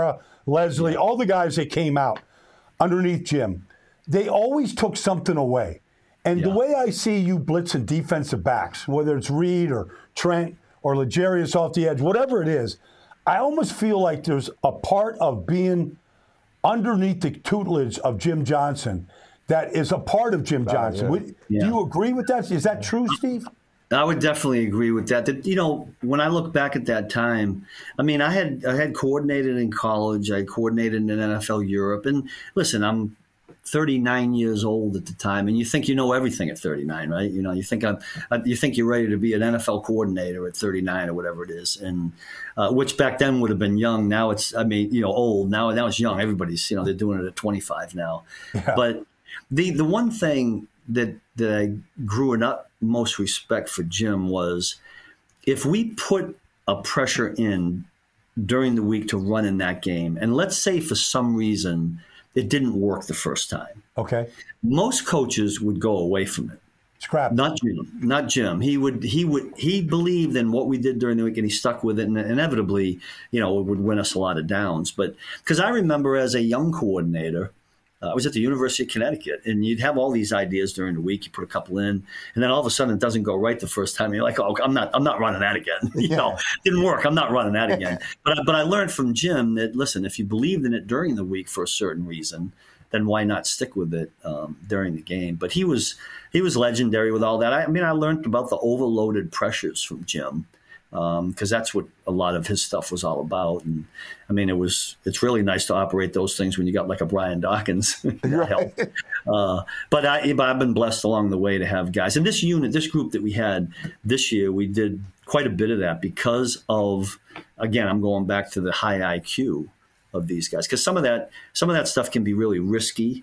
B: Leslie, all the guys that came out underneath Jim, they always took something away. And
C: Yeah.
B: the way I see you blitzing defensive backs, whether it's Reed or Trent or Legarius off the edge, whatever it is, I almost feel like there's a part of being underneath the tutelage of Jim Johnson that is a part of Jim Johnson.
A: yeah.
B: Would-
C: Yeah.
B: Do you agree with that? Is that true, Steve?
C: I would definitely agree with that. That, you know, when I look back at that time, I mean, I had I had coordinated in college, I coordinated in N F L Europe, and listen, I'm thirty-nine years old at the time, and you think you know everything at thirty-nine, right? You know, you think I'm, you think you're ready to be an N F L coordinator at thirty-nine or whatever it is, and uh, which back then would have been young. Now it's, I mean, you know, old. Now now it's young. Everybody's, you know, they're doing it at twenty-five now.
B: Yeah.
C: But the the one thing that that I grew in up most respect for Jim was if we put a pressure in during the week to run in that game, and let's say for some reason it didn't work the first time,
B: Okay.
C: most coaches would go away from it.
B: Scrap.
C: Not Jim. Not Jim. He would. He would. He believed in what we did during the week, and he stuck with it. And inevitably, you know, it would win us a lot of downs. But because I remember as a young coordinator, uh, I was at the University of Connecticut, and you'd have all these ideas during the week. You put a couple in, and then all of a sudden it doesn't go right the first time. And you're like, oh, I'm not. I'm not running that again. you
A: Yeah.
C: know, didn't work. I'm not running that again. but I- but I learned from Jim that listen, if you believed in it during the week for a certain reason, then why not stick with it um, during the game? But he was he was legendary with all that. I, I mean, I learned about the overloaded pressures from Jim because um, that's what a lot of his stuff was all about. And I mean, it was it's really nice to operate those things when you got like a Brian Dawkins. that
A: Right.
C: helped. Uh, but I, but I've been blessed along the way to have guys. And this unit, this group that we had this year, we did quite a bit of that because of, again, I'm going back to the high I Q of these guys, because some of that some of that stuff can be really risky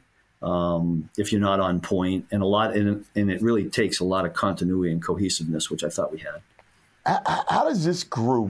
C: um, if you're not on point, and a lot and, and it really takes a lot of continuity and cohesiveness, which I thought we had.
A: How, how does this group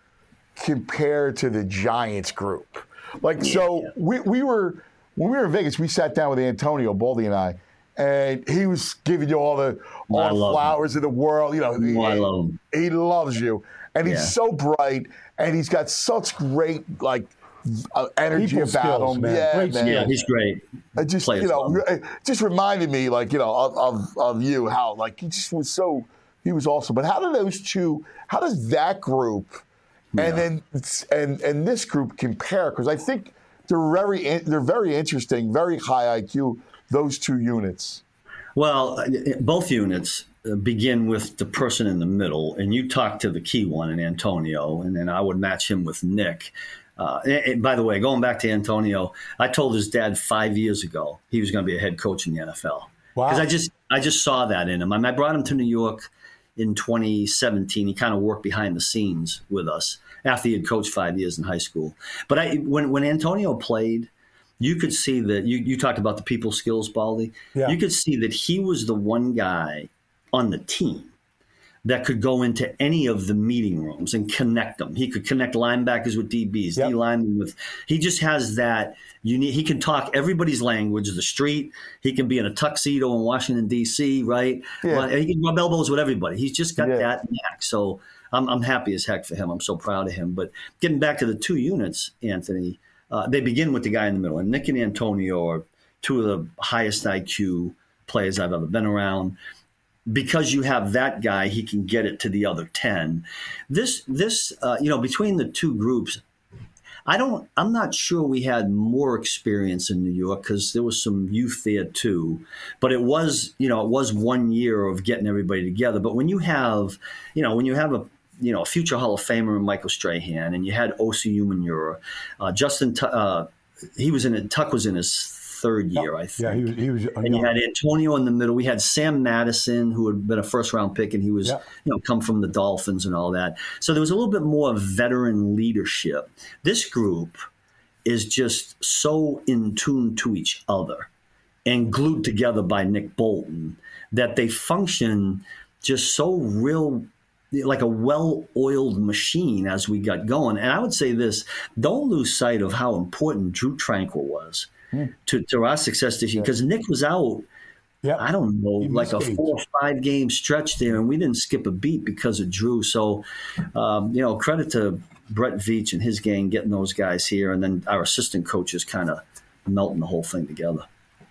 A: compare to the Giants group? Like, so we, we were when we were in Vegas, we sat down with Antonio Baldy and I, and he was giving you all the all
C: I
A: the
C: love
A: flowers of the world. You know,
C: Oh,
A: he,
C: I love him.
A: he loves you, and he's
C: Yeah.
A: so bright, and he's got such great like uh, energy
B: People
A: about
B: skills,
A: him.
B: man.
A: Yeah,
B: Great
A: man.
C: Yeah, he's great.
A: It just
C: Players
A: you know,
C: love him.
A: it just reminded me like you know of, of of you how like he just was so he was awesome. But how do those two? How does that group and then and and this group compare? Because I think they're very in- they're very interesting, very high I Q. Those two units.
C: Well, both units begin with the person in the middle, and you talk to the key one in Antonio, and then I would match him with Nick. Uh, and, and by the way, going back to Antonio, I told his dad five years ago he was going to be a head coach in the N F L
B: Wow.
C: because I just I just saw that in him. I, mean, I brought him to New York in twenty seventeen. He kind of worked behind the scenes with us after he had coached five years in high school. But I, when when Antonio played, you could see that you, you talked about the people skills, Baldy.
B: Yeah.
C: You could see that he was the one guy on the team that could go into any of the meeting rooms and connect them. He could connect linebackers with D Bs,
B: Yep.
C: D linemen with. He just has that unique. He can talk everybody's language, the street. He can be in a tuxedo in Washington D C, right?
A: Yeah.
C: But he can rub elbows with everybody. He's just got
A: Yeah.
C: that knack. So I'm I'm happy as heck for him. I'm so proud of him. But getting back to the two units, Anthony. Uh, they begin with the guy in the middle. And Nick and Antonio are two of the highest I Q players I've ever been around. Because you have that guy, he can get it to the other ten. This, this, uh, you know, between the two groups, I don't. I'm not sure we had more experience in New York because there was some youth there too. But it was, you know, it was one year of getting everybody together. But when you have, you know, when you have a you know, a future Hall of Famer, Michael Strahan, and you had Osi Umenyiora, uh, Justin, T- uh, he was in it. Tuck was in his third year, I think.
B: Yeah, he was. He was
C: And you had Antonio in the middle. We had Sam Madison, who had been a first round pick, and he was,
B: Yeah.
C: you know, come from the Dolphins and all that. So there was a little bit more veteran leadership. This group is just so in tune to each other and glued together by Nick Bolton that they function just so real, like a well-oiled machine as we got going. And I would say this, don't lose sight of how important Drew Tranquil was mm. to, to our success this year, because Nick was out,
B: Yep.
C: I don't know,
B: He
C: like a
B: escaped.
C: four or five game stretch there, and we didn't skip a beat because of Drew. So, um, you know, credit to Brett Veach and his gang getting those guys here, and then our assistant coaches kind of melting the whole thing together.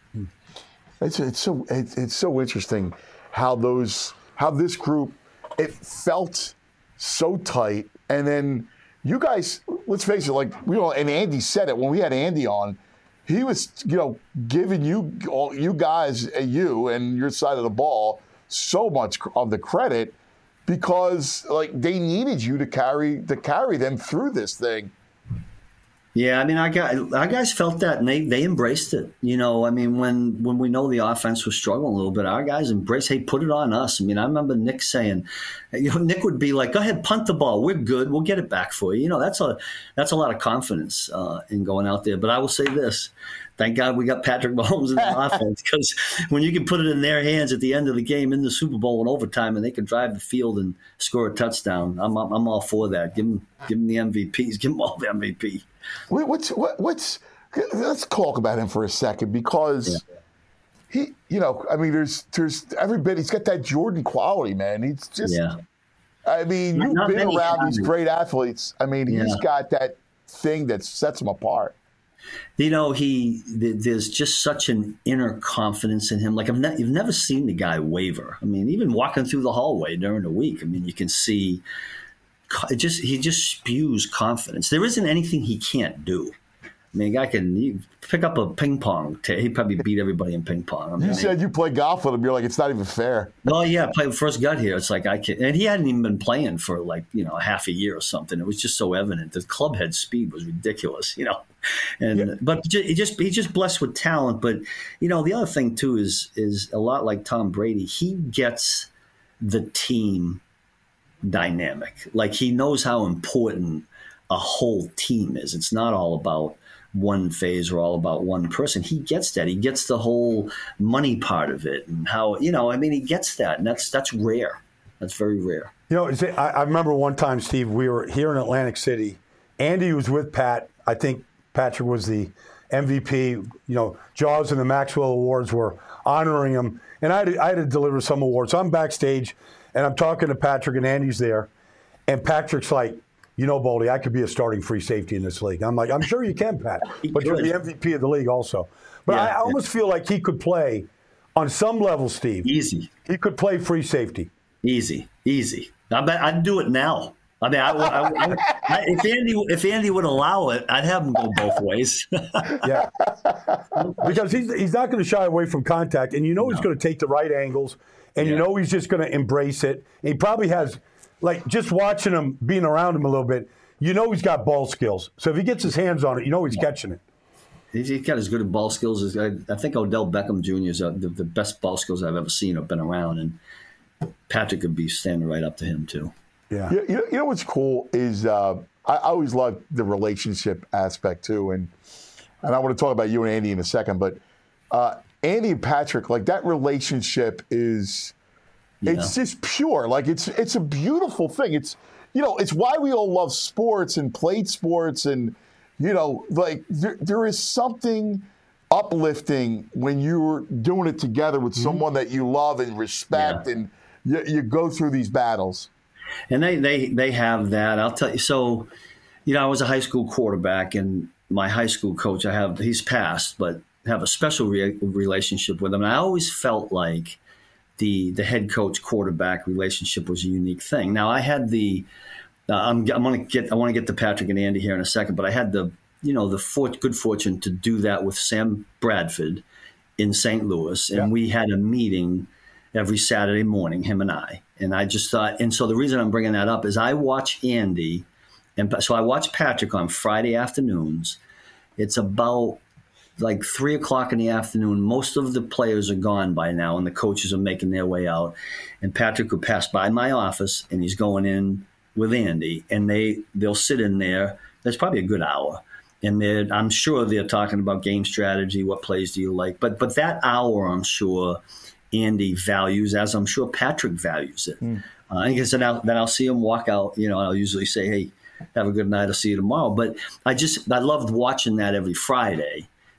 A: It's it's so it's, it's so interesting how those how this group, it felt so tight, and then you guys, let's face it, like you know, and Andy said it when we had Andy on, he was you know giving you all you guys you and your side of the ball so much of the credit because like they needed you to carry to carry them through this thing.
C: Yeah, I mean, our guys, our guys felt that, and they, they embraced it. You know, I mean, when when we know the offense was struggling a little bit, our guys embraced, hey, put it on us. I mean, I remember Nick saying, you know, Nick would be like, go ahead, punt the ball. We're good. We'll get it back for you. You know, that's a that's a lot of confidence uh, in going out there. But I will say this. Thank God we got Patrick Mahomes in the offense, because when you can put it in their hands at the end of the game in the Super Bowl in overtime and they can drive the field and score a touchdown, I'm I'm, I'm all for that. Give them, give them the M V Ps. Give them all the M V P.
A: Wait, what's what, what's? Let's talk about him for a second because yeah. he, you know, I mean, there's there's every bit. He's got that Jordan quality, man. He's just. Yeah. I mean, you've Not been around these great athletes. I mean, he's yeah. got that thing that sets him apart.
C: You know, he there's just such an inner confidence in him. Like I've ne- you've never seen the guy waver. I mean, even walking through the hallway during the week, I mean, you can see. It just he just spews confidence. There isn't anything he can't do. I mean, a guy can you pick up a ping pong. T- he'd probably beat everybody in ping pong. I mean,
A: you said you play golf with him. You're like, it's not even fair.
C: Oh yeah, I played first got here. It's like I can, and he hadn't even been playing for like you know half a year or something. It was just so evident. The club head speed was ridiculous, you know. And yeah. but he just he just blessed with talent. But you know, the other thing too is is a lot like Tom Brady. He gets the team dynamic. Like he knows how important a whole team is. It's not all about one phase or all about one person. He gets that. He gets the whole money part of it and how, you know, I mean, he gets that. And that's that's rare. That's very rare.
B: You know, I, I remember one time, Steve, we were here in Atlantic City. Andy was with Pat. I think Patrick was the M V P. You know, Jaws and the Maxwell Awards were honoring him. And I had to, I had to deliver some awards. So I'm backstage. And I'm talking to Patrick, and Andy's there. And Patrick's like, you know, Baldy, I could be a starting free safety in this league. I'm like, I'm sure you can, Pat. But you're the M V P of the league also. But yeah, I almost yeah. feel like he could play on some level, Steve.
C: Easy.
B: He could play free safety.
C: Easy. Easy. I bet I'd do it now. I mean, I, I, I, if Andy if Andy would allow it, I'd have him go both ways.
B: Yeah. Because he's, he's not going to shy away from contact, and you know no. he's going to take the right angles. And yeah. you know he's just going to embrace it. And he probably has, like, just watching him, being around him a little bit, you know he's got ball skills. So if he gets his hands on it, you know he's yeah. catching it.
C: He's got as good at ball skills as I, I think Odell Beckham Junior is uh, the, the best ball skills I've ever seen or been around. And Patrick could be standing right up to him, too.
A: Yeah. You know, you know what's cool is uh, I, I always love the relationship aspect, too. And, and I want to talk about you and Andy in a second. But uh, Andy and Patrick, like that relationship is, yeah. it's just pure. Like it's it's a beautiful thing. It's, you know, it's why we all love sports and played sports. And, you know, like there, there is something uplifting when you're doing it together with mm-hmm. someone that you love and respect, yeah. and you, you go through these battles.
C: And they, they, they have that. I'll tell you. So, you know, I was a high school quarterback, and my high school coach, I have, he's passed, but have a special re- relationship with him. And I always felt like the the head coach quarterback relationship was a unique thing. Now I had the, uh, I'm, I'm going to get, I want to get to Patrick and Andy here in a second, but I had the, you know, the for, good fortune to do that with Sam Bradford in Saint Louis. And yeah. we had a meeting every Saturday morning, him and I. And I just thought, and so the reason I'm bringing that up is I watch Andy, and so I watch Patrick on Friday afternoons. It's about like three o'clock in the afternoon. Most of the players are gone by now, and the coaches are making their way out. And Patrick would pass by my office, and he's going in with Andy, and they they'll sit in there. That's probably a good hour, and they're, I'm sure they're talking about game strategy. What plays do you like? But but that hour, I'm sure Andy values, as I'm sure Patrick values it. Mm. Uh, and then I'll, then I'll see him walk out. You know, I'll usually say, "Hey, have a good night. I'll see you tomorrow." But I just I loved watching that every Friday,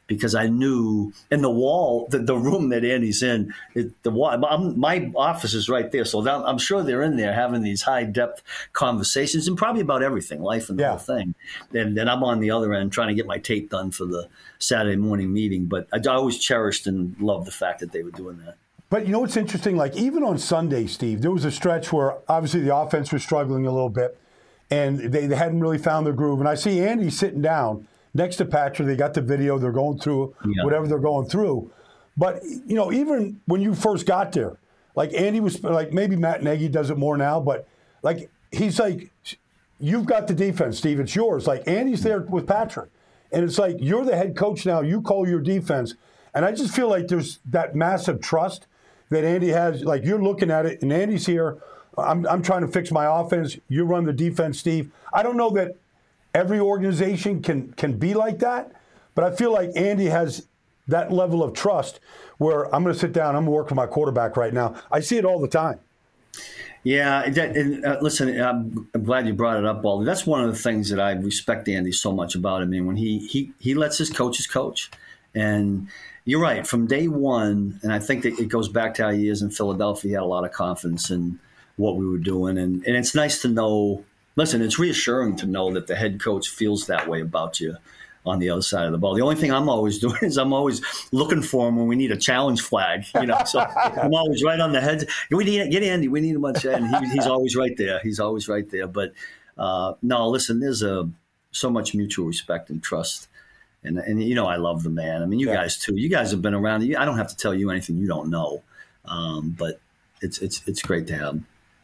C: because I knew in the wall, the, the room that Andy's in, it, the wall, I'm, my office is right there. So that, I'm sure they're in there having these high depth conversations and probably about everything, life and the
B: yeah.
C: whole thing. And then I'm on the other end trying to get my tape done for the Saturday morning meeting. But I, I always cherished and loved the fact that they were doing that.
B: But you know what's interesting? Like, even on Sunday, Steve, there was a stretch where obviously the offense was struggling a little bit, and they, they hadn't really found their groove. And I see Andy sitting down next to Patrick. They got the video. They're going through yeah. whatever they're going through. But, you know, even when you first got there, like Andy was, like maybe Matt Nagy does it more now, but, like, he's like, you've got the defense, Steve. It's yours. Like, Andy's there with Patrick. And it's like, you're the head coach now. You call your defense. And I just feel like there's that massive trust that Andy has. Like, you're looking at it, and Andy's here. I'm, I'm trying to fix my offense. You run the defense, Steve. I don't know that every organization can can be like that, but I feel like Andy has that level of trust where I'm going to sit down, I'm going to work with my quarterback right now. I see it all the time.
C: Yeah, that, and, uh, listen, I'm, I'm glad you brought it up, Baldy. That's one of the things that I respect Andy so much about him. I mean, when he he he lets his coaches coach, and you're right, from day one, and I think that it goes back to our years in Philadelphia, he had a lot of confidence in what we were doing. And, and it's nice to know, listen, it's reassuring to know that the head coach feels that way about you on the other side of the ball. The only thing I'm always doing is I'm always looking for him when we need a challenge flag, you know, so I'm always right on the head. We need, get Andy, we need a bunch of, and he, he's always right there. He's always right there. But uh, no, listen, there's a, so much mutual respect and trust. And, and, you know, I love the man. I mean, you yeah. guys, too. You guys have been around. I don't have to tell you anything you don't know. Um, but it's it's it's great to have him.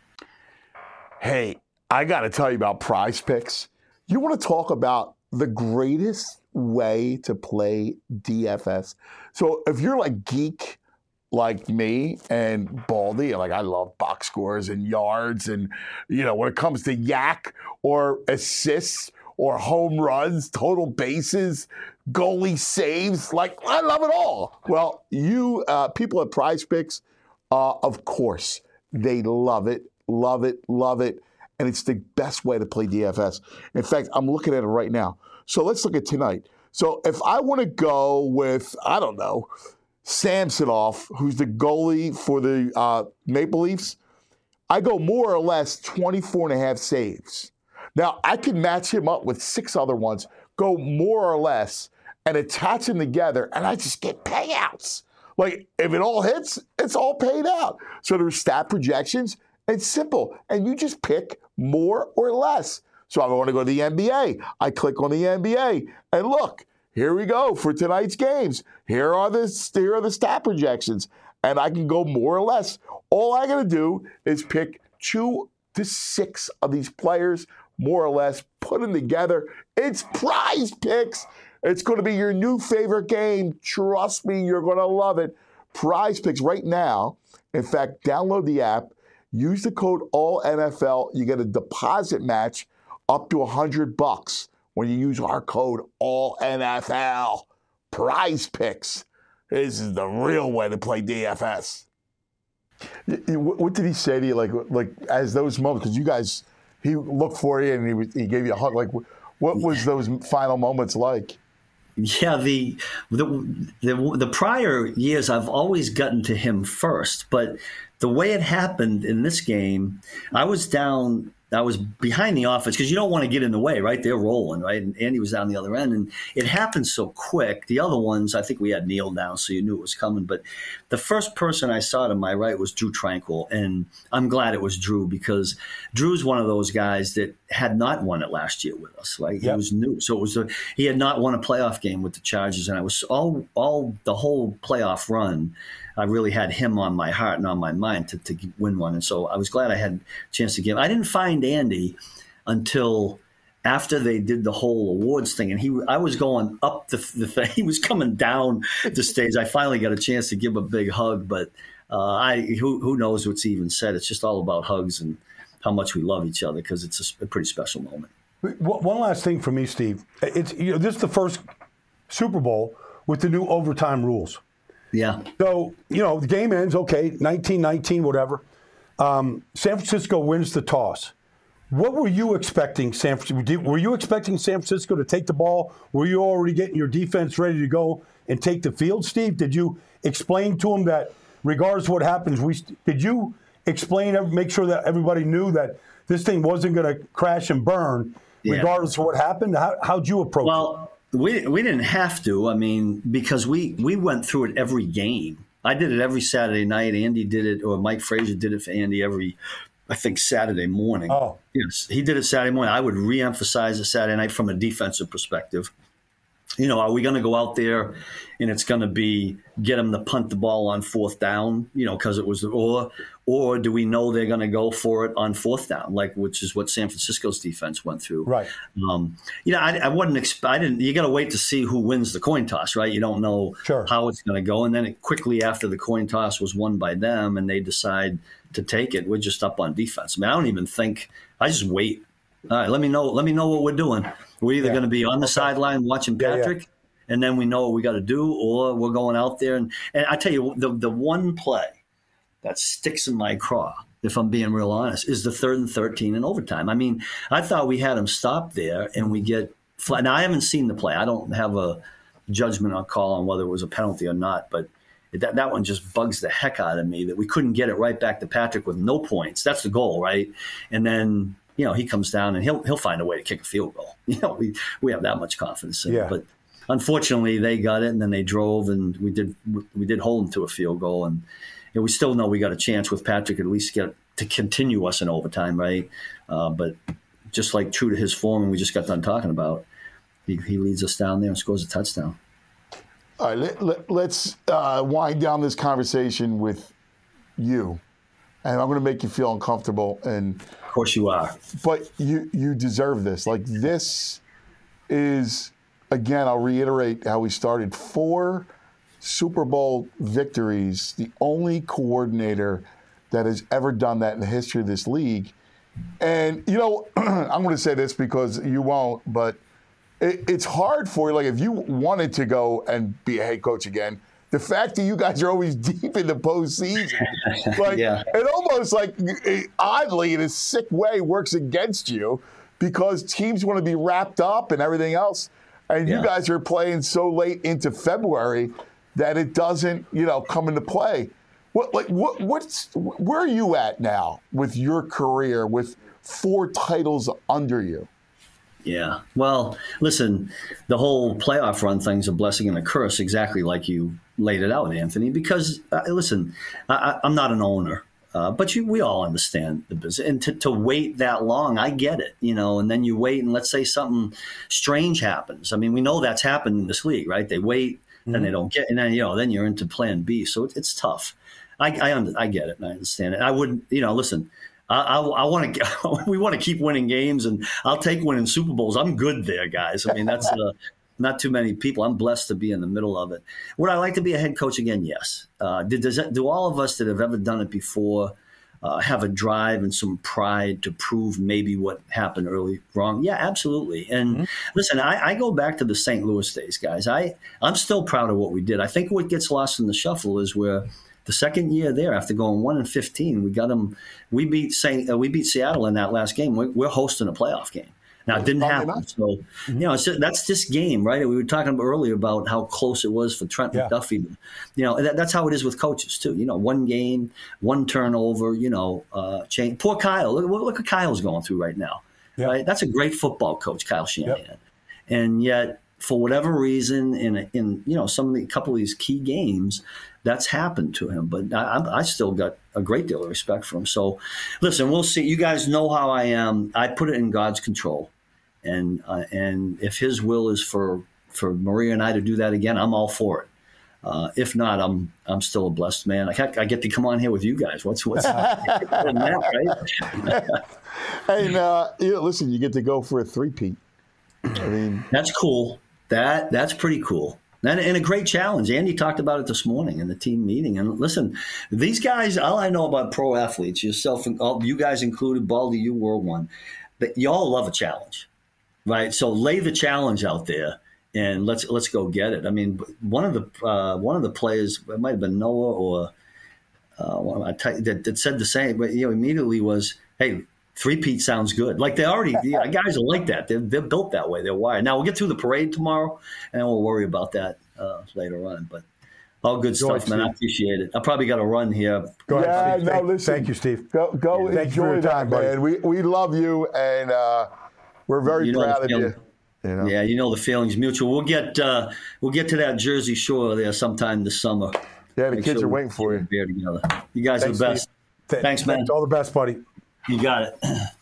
A: Hey, I got to tell you about Prize Picks. You want to talk about the greatest way to play D F S? So if you're like geek like me and Baldy, and like I love box scores and yards, and, you know, when it comes to yak or assists or home runs, total bases, goalie saves, like I love it all. Well, you uh, people at Prize Picks, uh, of course, they love it, love it, love it, and it's the best way to play D F S. In fact, I'm looking at it right now. So let's look at tonight. So if I want to go with, I don't know, Samsonov, who's the goalie for the uh, Maple Leafs, I go more or less twenty-four and a half saves. Now, I can match him up with six other ones, go more or less, and attach them together, and I just get payouts. Like, if it all hits, it's all paid out. So there's stat projections. It's simple, and you just pick more or less. So I want to go to the N B A. I click on the N B A, and look, here we go for tonight's games. Here are the, here are the stat projections, and I can go more or less. All I got to do is pick two to six of these players, more or less, put them together. It's Prize Picks. It's going to be your new favorite game. Trust me, you're going to love it. Prize Picks right now. In fact, download the app. Use the code all N F L. You get a deposit match up to one hundred bucks when you use our code all N F L. Prize Picks. This is the real way to play D F S. What did he say to you, like, like as those moments? Because you guys, he looked for you and he he gave you a hug. Like, what was those final moments like?
C: Yeah, the, the the the prior years I've always gotten to him first, but the way it happened in this game, I was down. I was behind the offense because you don't want to get in the way, right? They're rolling, right? And Andy was down the other end, and it happened so quick. The other ones, I think we had Neil down, so you knew it was coming. But the first person I saw to my right was Drew Tranquil, and I'm glad it was Drew because Drew's one of those guys that had not won it last year with us. Right? He yep. was new, so it was a, he had not won a playoff game with the Chargers, and I was all all the whole playoff run. I really had him on my heart and on my mind to, to win one. And so I was glad I had a chance to give. I didn't find Andy until after they did the whole awards thing. And he, I was going up the, the thing. He was coming down the stage. I finally got a chance to give him a big hug. But uh, I who, who knows what's even said. It's just all about hugs and how much we love each other because it's a, a pretty special moment.
B: One last thing for me, Steve. It's you know, this is the first Super Bowl with the new overtime rules.
C: Yeah.
B: So, you know, the game ends, okay, nineteen nineteen, whatever. Um, San Francisco wins the toss. What were you expecting, San Francisco? Were you expecting San Francisco to take the ball? Were you already getting your defense ready to go and take the field, Steve? Did you explain to them that regardless of what happens, we did you explain, make sure that everybody knew that this thing wasn't going to crash and burn
C: yeah.
B: regardless of what happened? How, how'd you approach
C: well,
B: it?
C: Well, we, we didn't have to. I mean, because we, we went through it every game. I did it every Saturday night. Andy did it, or Mike Frazier did it for Andy every, I think, Saturday morning.
B: Oh.
C: Yes, he did it Saturday morning. I would reemphasize it Saturday night from a defensive perspective. You know, are we going to go out there and it's going to be get them to punt the ball on fourth down, you know, because it was, or or do we know they're going to go for it on fourth down, like, which is what San Francisco's defense went through.
B: Right.
C: Um, you know, I, I wouldn't expect, I didn't, you got to wait to see who wins the coin toss, right? You don't know
B: sure.
C: how it's going to go. And then it, quickly after the coin toss was won by them and they decide to take it, we're just up on defense. I mean, I don't even think, I just wait. All right, let me know, let me know what we're doing. We're either
B: yeah.
C: going to be on the okay. sideline watching Patrick, yeah, yeah. and then we know what we got to do, or we're going out there. And, and I tell you, the the one play that sticks in my craw, if I'm being real honest, is the third and thirteen in overtime. I mean, I thought we had him stop there, and we get flat. Now, I haven't seen the play. I don't have a judgment or call on whether it was a penalty or not, but that, that one just bugs the heck out of me that we couldn't get it right back to Patrick with no points. That's the goal, right? And then, you know, he comes down and he'll he'll find a way to kick a field goal. You know, we, we have that much confidence in
B: yeah.
C: it. But unfortunately, they got it, and then they drove, and we did we did hold them to a field goal, and you know, we still know we got a chance with Patrick at least get to continue us in overtime, right? Uh, but just like true to his form, and we just got done talking about, he, he leads us down there and scores a touchdown.
A: All right, let, let, let's uh, wind down this conversation with you. And I'm going to make you feel uncomfortable. And
C: of course you are.
A: But you you deserve this. Like, this is, again, I'll reiterate how we started. Four Super Bowl victories, the only coordinator that has ever done that in the history of this league. And, you know, I'm going to say this because you won't, but it, it's hard for you. Like, if you wanted to go and be a head coach again, the fact that you guys are always deep in the postseason, like,
C: yeah.
A: it almost like, oddly, in a sick way, works against you because teams want to be wrapped up and everything else. And yeah. you guys are playing so late into February that it doesn't, you know, come into play. What, like, what, what's, where are you at now with your career with four titles under you?
C: Yeah. Well, listen, the whole playoff run thing's a blessing and a curse, exactly like you laid it out, Anthony, because, uh, listen, I, I'm not an owner, uh, but you, we all understand the business. And to, to wait that long, I get it, you know, and then you wait and let's say something strange happens. I mean, we know that's happened in this league, right? They wait, mm-hmm. then they don't get, and then, you know, then you're into plan B. So it, it's tough. I, I, under, I get it and I understand it. I wouldn't, you know, listen, I, I, I want to. We want to keep winning games, and I'll take winning Super Bowls. I'm good there, guys. I mean, that's uh, not too many people. I'm blessed to be in the middle of it. Would I like to be a head coach again? Yes. Uh, did, does that, do all of us that have ever done it before uh, have a drive and some pride to prove maybe what happened early wrong? Yeah, absolutely. And mm-hmm. listen, I, I go back to the Saint Louis days, guys. I I'm still proud of what we did. I think what gets lost in the shuffle is where. The second year there, after going one and fifteen, we got them. We beat Saint, uh, we beat Seattle in that last game. We're, we're hosting a playoff game. Now it didn't happen. So mm-hmm. you know, it's, that's this game, right? We were talking earlier about how close it was for Trent yeah. McDuffie. You know, that, that's how it is with coaches too. You know, one game, one turnover. You know, uh, change. Poor Kyle. Look, look what Kyle's going through right now. Yeah. Right? That's a great football coach, Kyle Shanahan, yep. and yet for whatever reason, in in you know some of the couple of these key games. That's happened to him, but I, I still got a great deal of respect for him. So, listen, we'll see. You guys know how I am. I put it in God's control, and uh, and if His will is for for Maria and I to do that again, I'm all for it. Uh, if not, I'm I'm still a blessed man. I, I get to come on here with you guys. What's what's that, right?
A: Hey, uh, you know, listen, you get to go for a three-peat. I mean,
C: that's cool. That that's pretty cool. And, and a great challenge. Andy talked about it this morning in the team meeting. And listen, these guys, all I know about pro athletes, yourself, and all, you guys included, Baldy, you were one, but you all love a challenge, right? So lay the challenge out there and let's let's go get it. I mean, one of the uh, one of the players, it might have been Noah or uh, one of my t- that, that said the same, but you know, immediately was, hey, Three-peat sounds good. Like they already, the guys are like that. They're, they're built that way. They're wired. Now we'll get through the parade tomorrow, and then we'll worry about that uh, later on. But all good
B: Go
C: stuff,
B: ahead,
C: man. I
B: Steve.
C: appreciate it. I probably got to run here.
B: Go ahead,
A: Yeah,
B: Steve.
A: no,
B: Thank,
A: listen.
B: thank you, Steve.
A: Go, go
B: Thank you for
A: enjoy
B: your
A: that,
B: time, buddy.
A: man. We we love you, and uh, we're very
C: You know
A: proud
C: the
A: of you.
C: feeling.
A: You know?
C: Yeah, you know the feeling's mutual. We'll get uh, we'll get to that Jersey Shore there sometime this summer.
A: Yeah, the
C: Make
A: kids
C: sure
A: are
C: we
A: waiting for
C: get
A: you.
C: a beer together. You guys
B: Thanks,
C: are the best.
B: Th-
C: Thanks, man.
B: All the best, buddy.
C: You got it.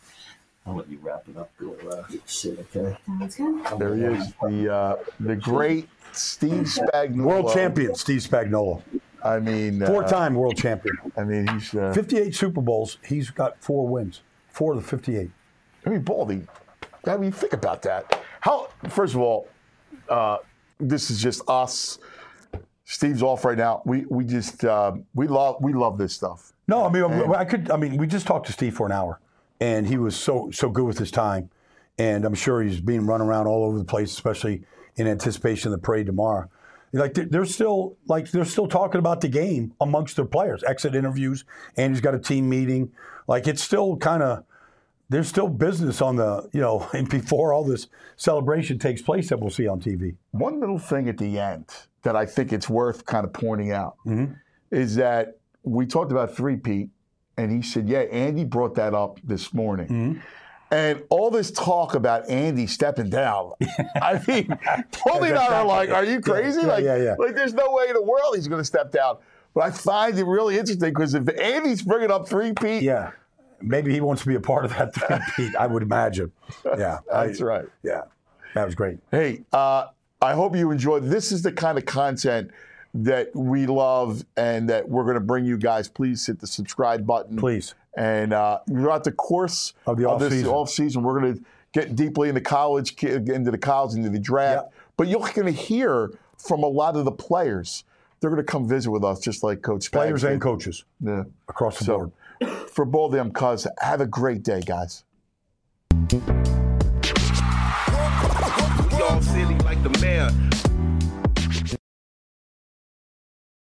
C: I'll let you wrap it up. Go uh, sit, okay?
D: Sounds good.
A: There he is, the uh, the great Steve Spagnuolo.
B: World champion, Steve Spagnuolo.
A: I mean, uh,
B: Four-time world champion.
A: I mean, he's. Uh,
B: fifty-eight Super Bowls. He's got four wins. Four of the fifty-eight.
A: I mean, Baldy. I mean, think about that. How? First of all, uh, this is just us. Steve's off right now. We we just uh, we love we love this stuff.
B: No, I mean, I could. I mean, we just talked to Steve for an hour, and he was so so good with his time, and I'm sure he's being run around all over the place, especially in anticipation of the parade tomorrow. Like they're, they're still like they're still talking about the game amongst their players, exit interviews, and he's got a team meeting. Like it's still kind of there's still business on the you know, and before all this celebration takes place that we'll see on T V.
A: One little thing at the end that I think it's worth kind of pointing out
B: Mm-hmm.
A: is that we talked about three-peat, and he said, yeah, Andy brought that up this morning.
B: Mm-hmm.
A: And all this talk about Andy stepping down, I mean, Paulie and I are like, are you crazy?
B: Yeah,
A: like,
B: yeah, yeah.
A: like, there's no way in the world he's going to step down. But I find it really interesting because if Andy's bringing up three-peat,
B: Yeah, maybe he wants to be a part of that three-peat. I would imagine. Yeah,
A: that's
B: I,
A: right.
B: Yeah, that was great.
A: Hey, uh, I hope you enjoyed. This is the kind of content that we love and that we're going to bring you guys. Please hit the subscribe button.
B: Please.
A: And uh, throughout the course
B: Of the
A: this
B: off-season.
A: off season, we're going to get deeply into college, into the college, into the draft.
B: Yep.
A: But you're going to hear from a lot of the players. They're going to come visit with us, just like Coach Spags
B: Players
A: did.
B: and coaches
A: Yeah.
B: across the
A: So,
B: board.
A: for both of them, cuz, have a great day, guys.
E: We all silly like the mayor.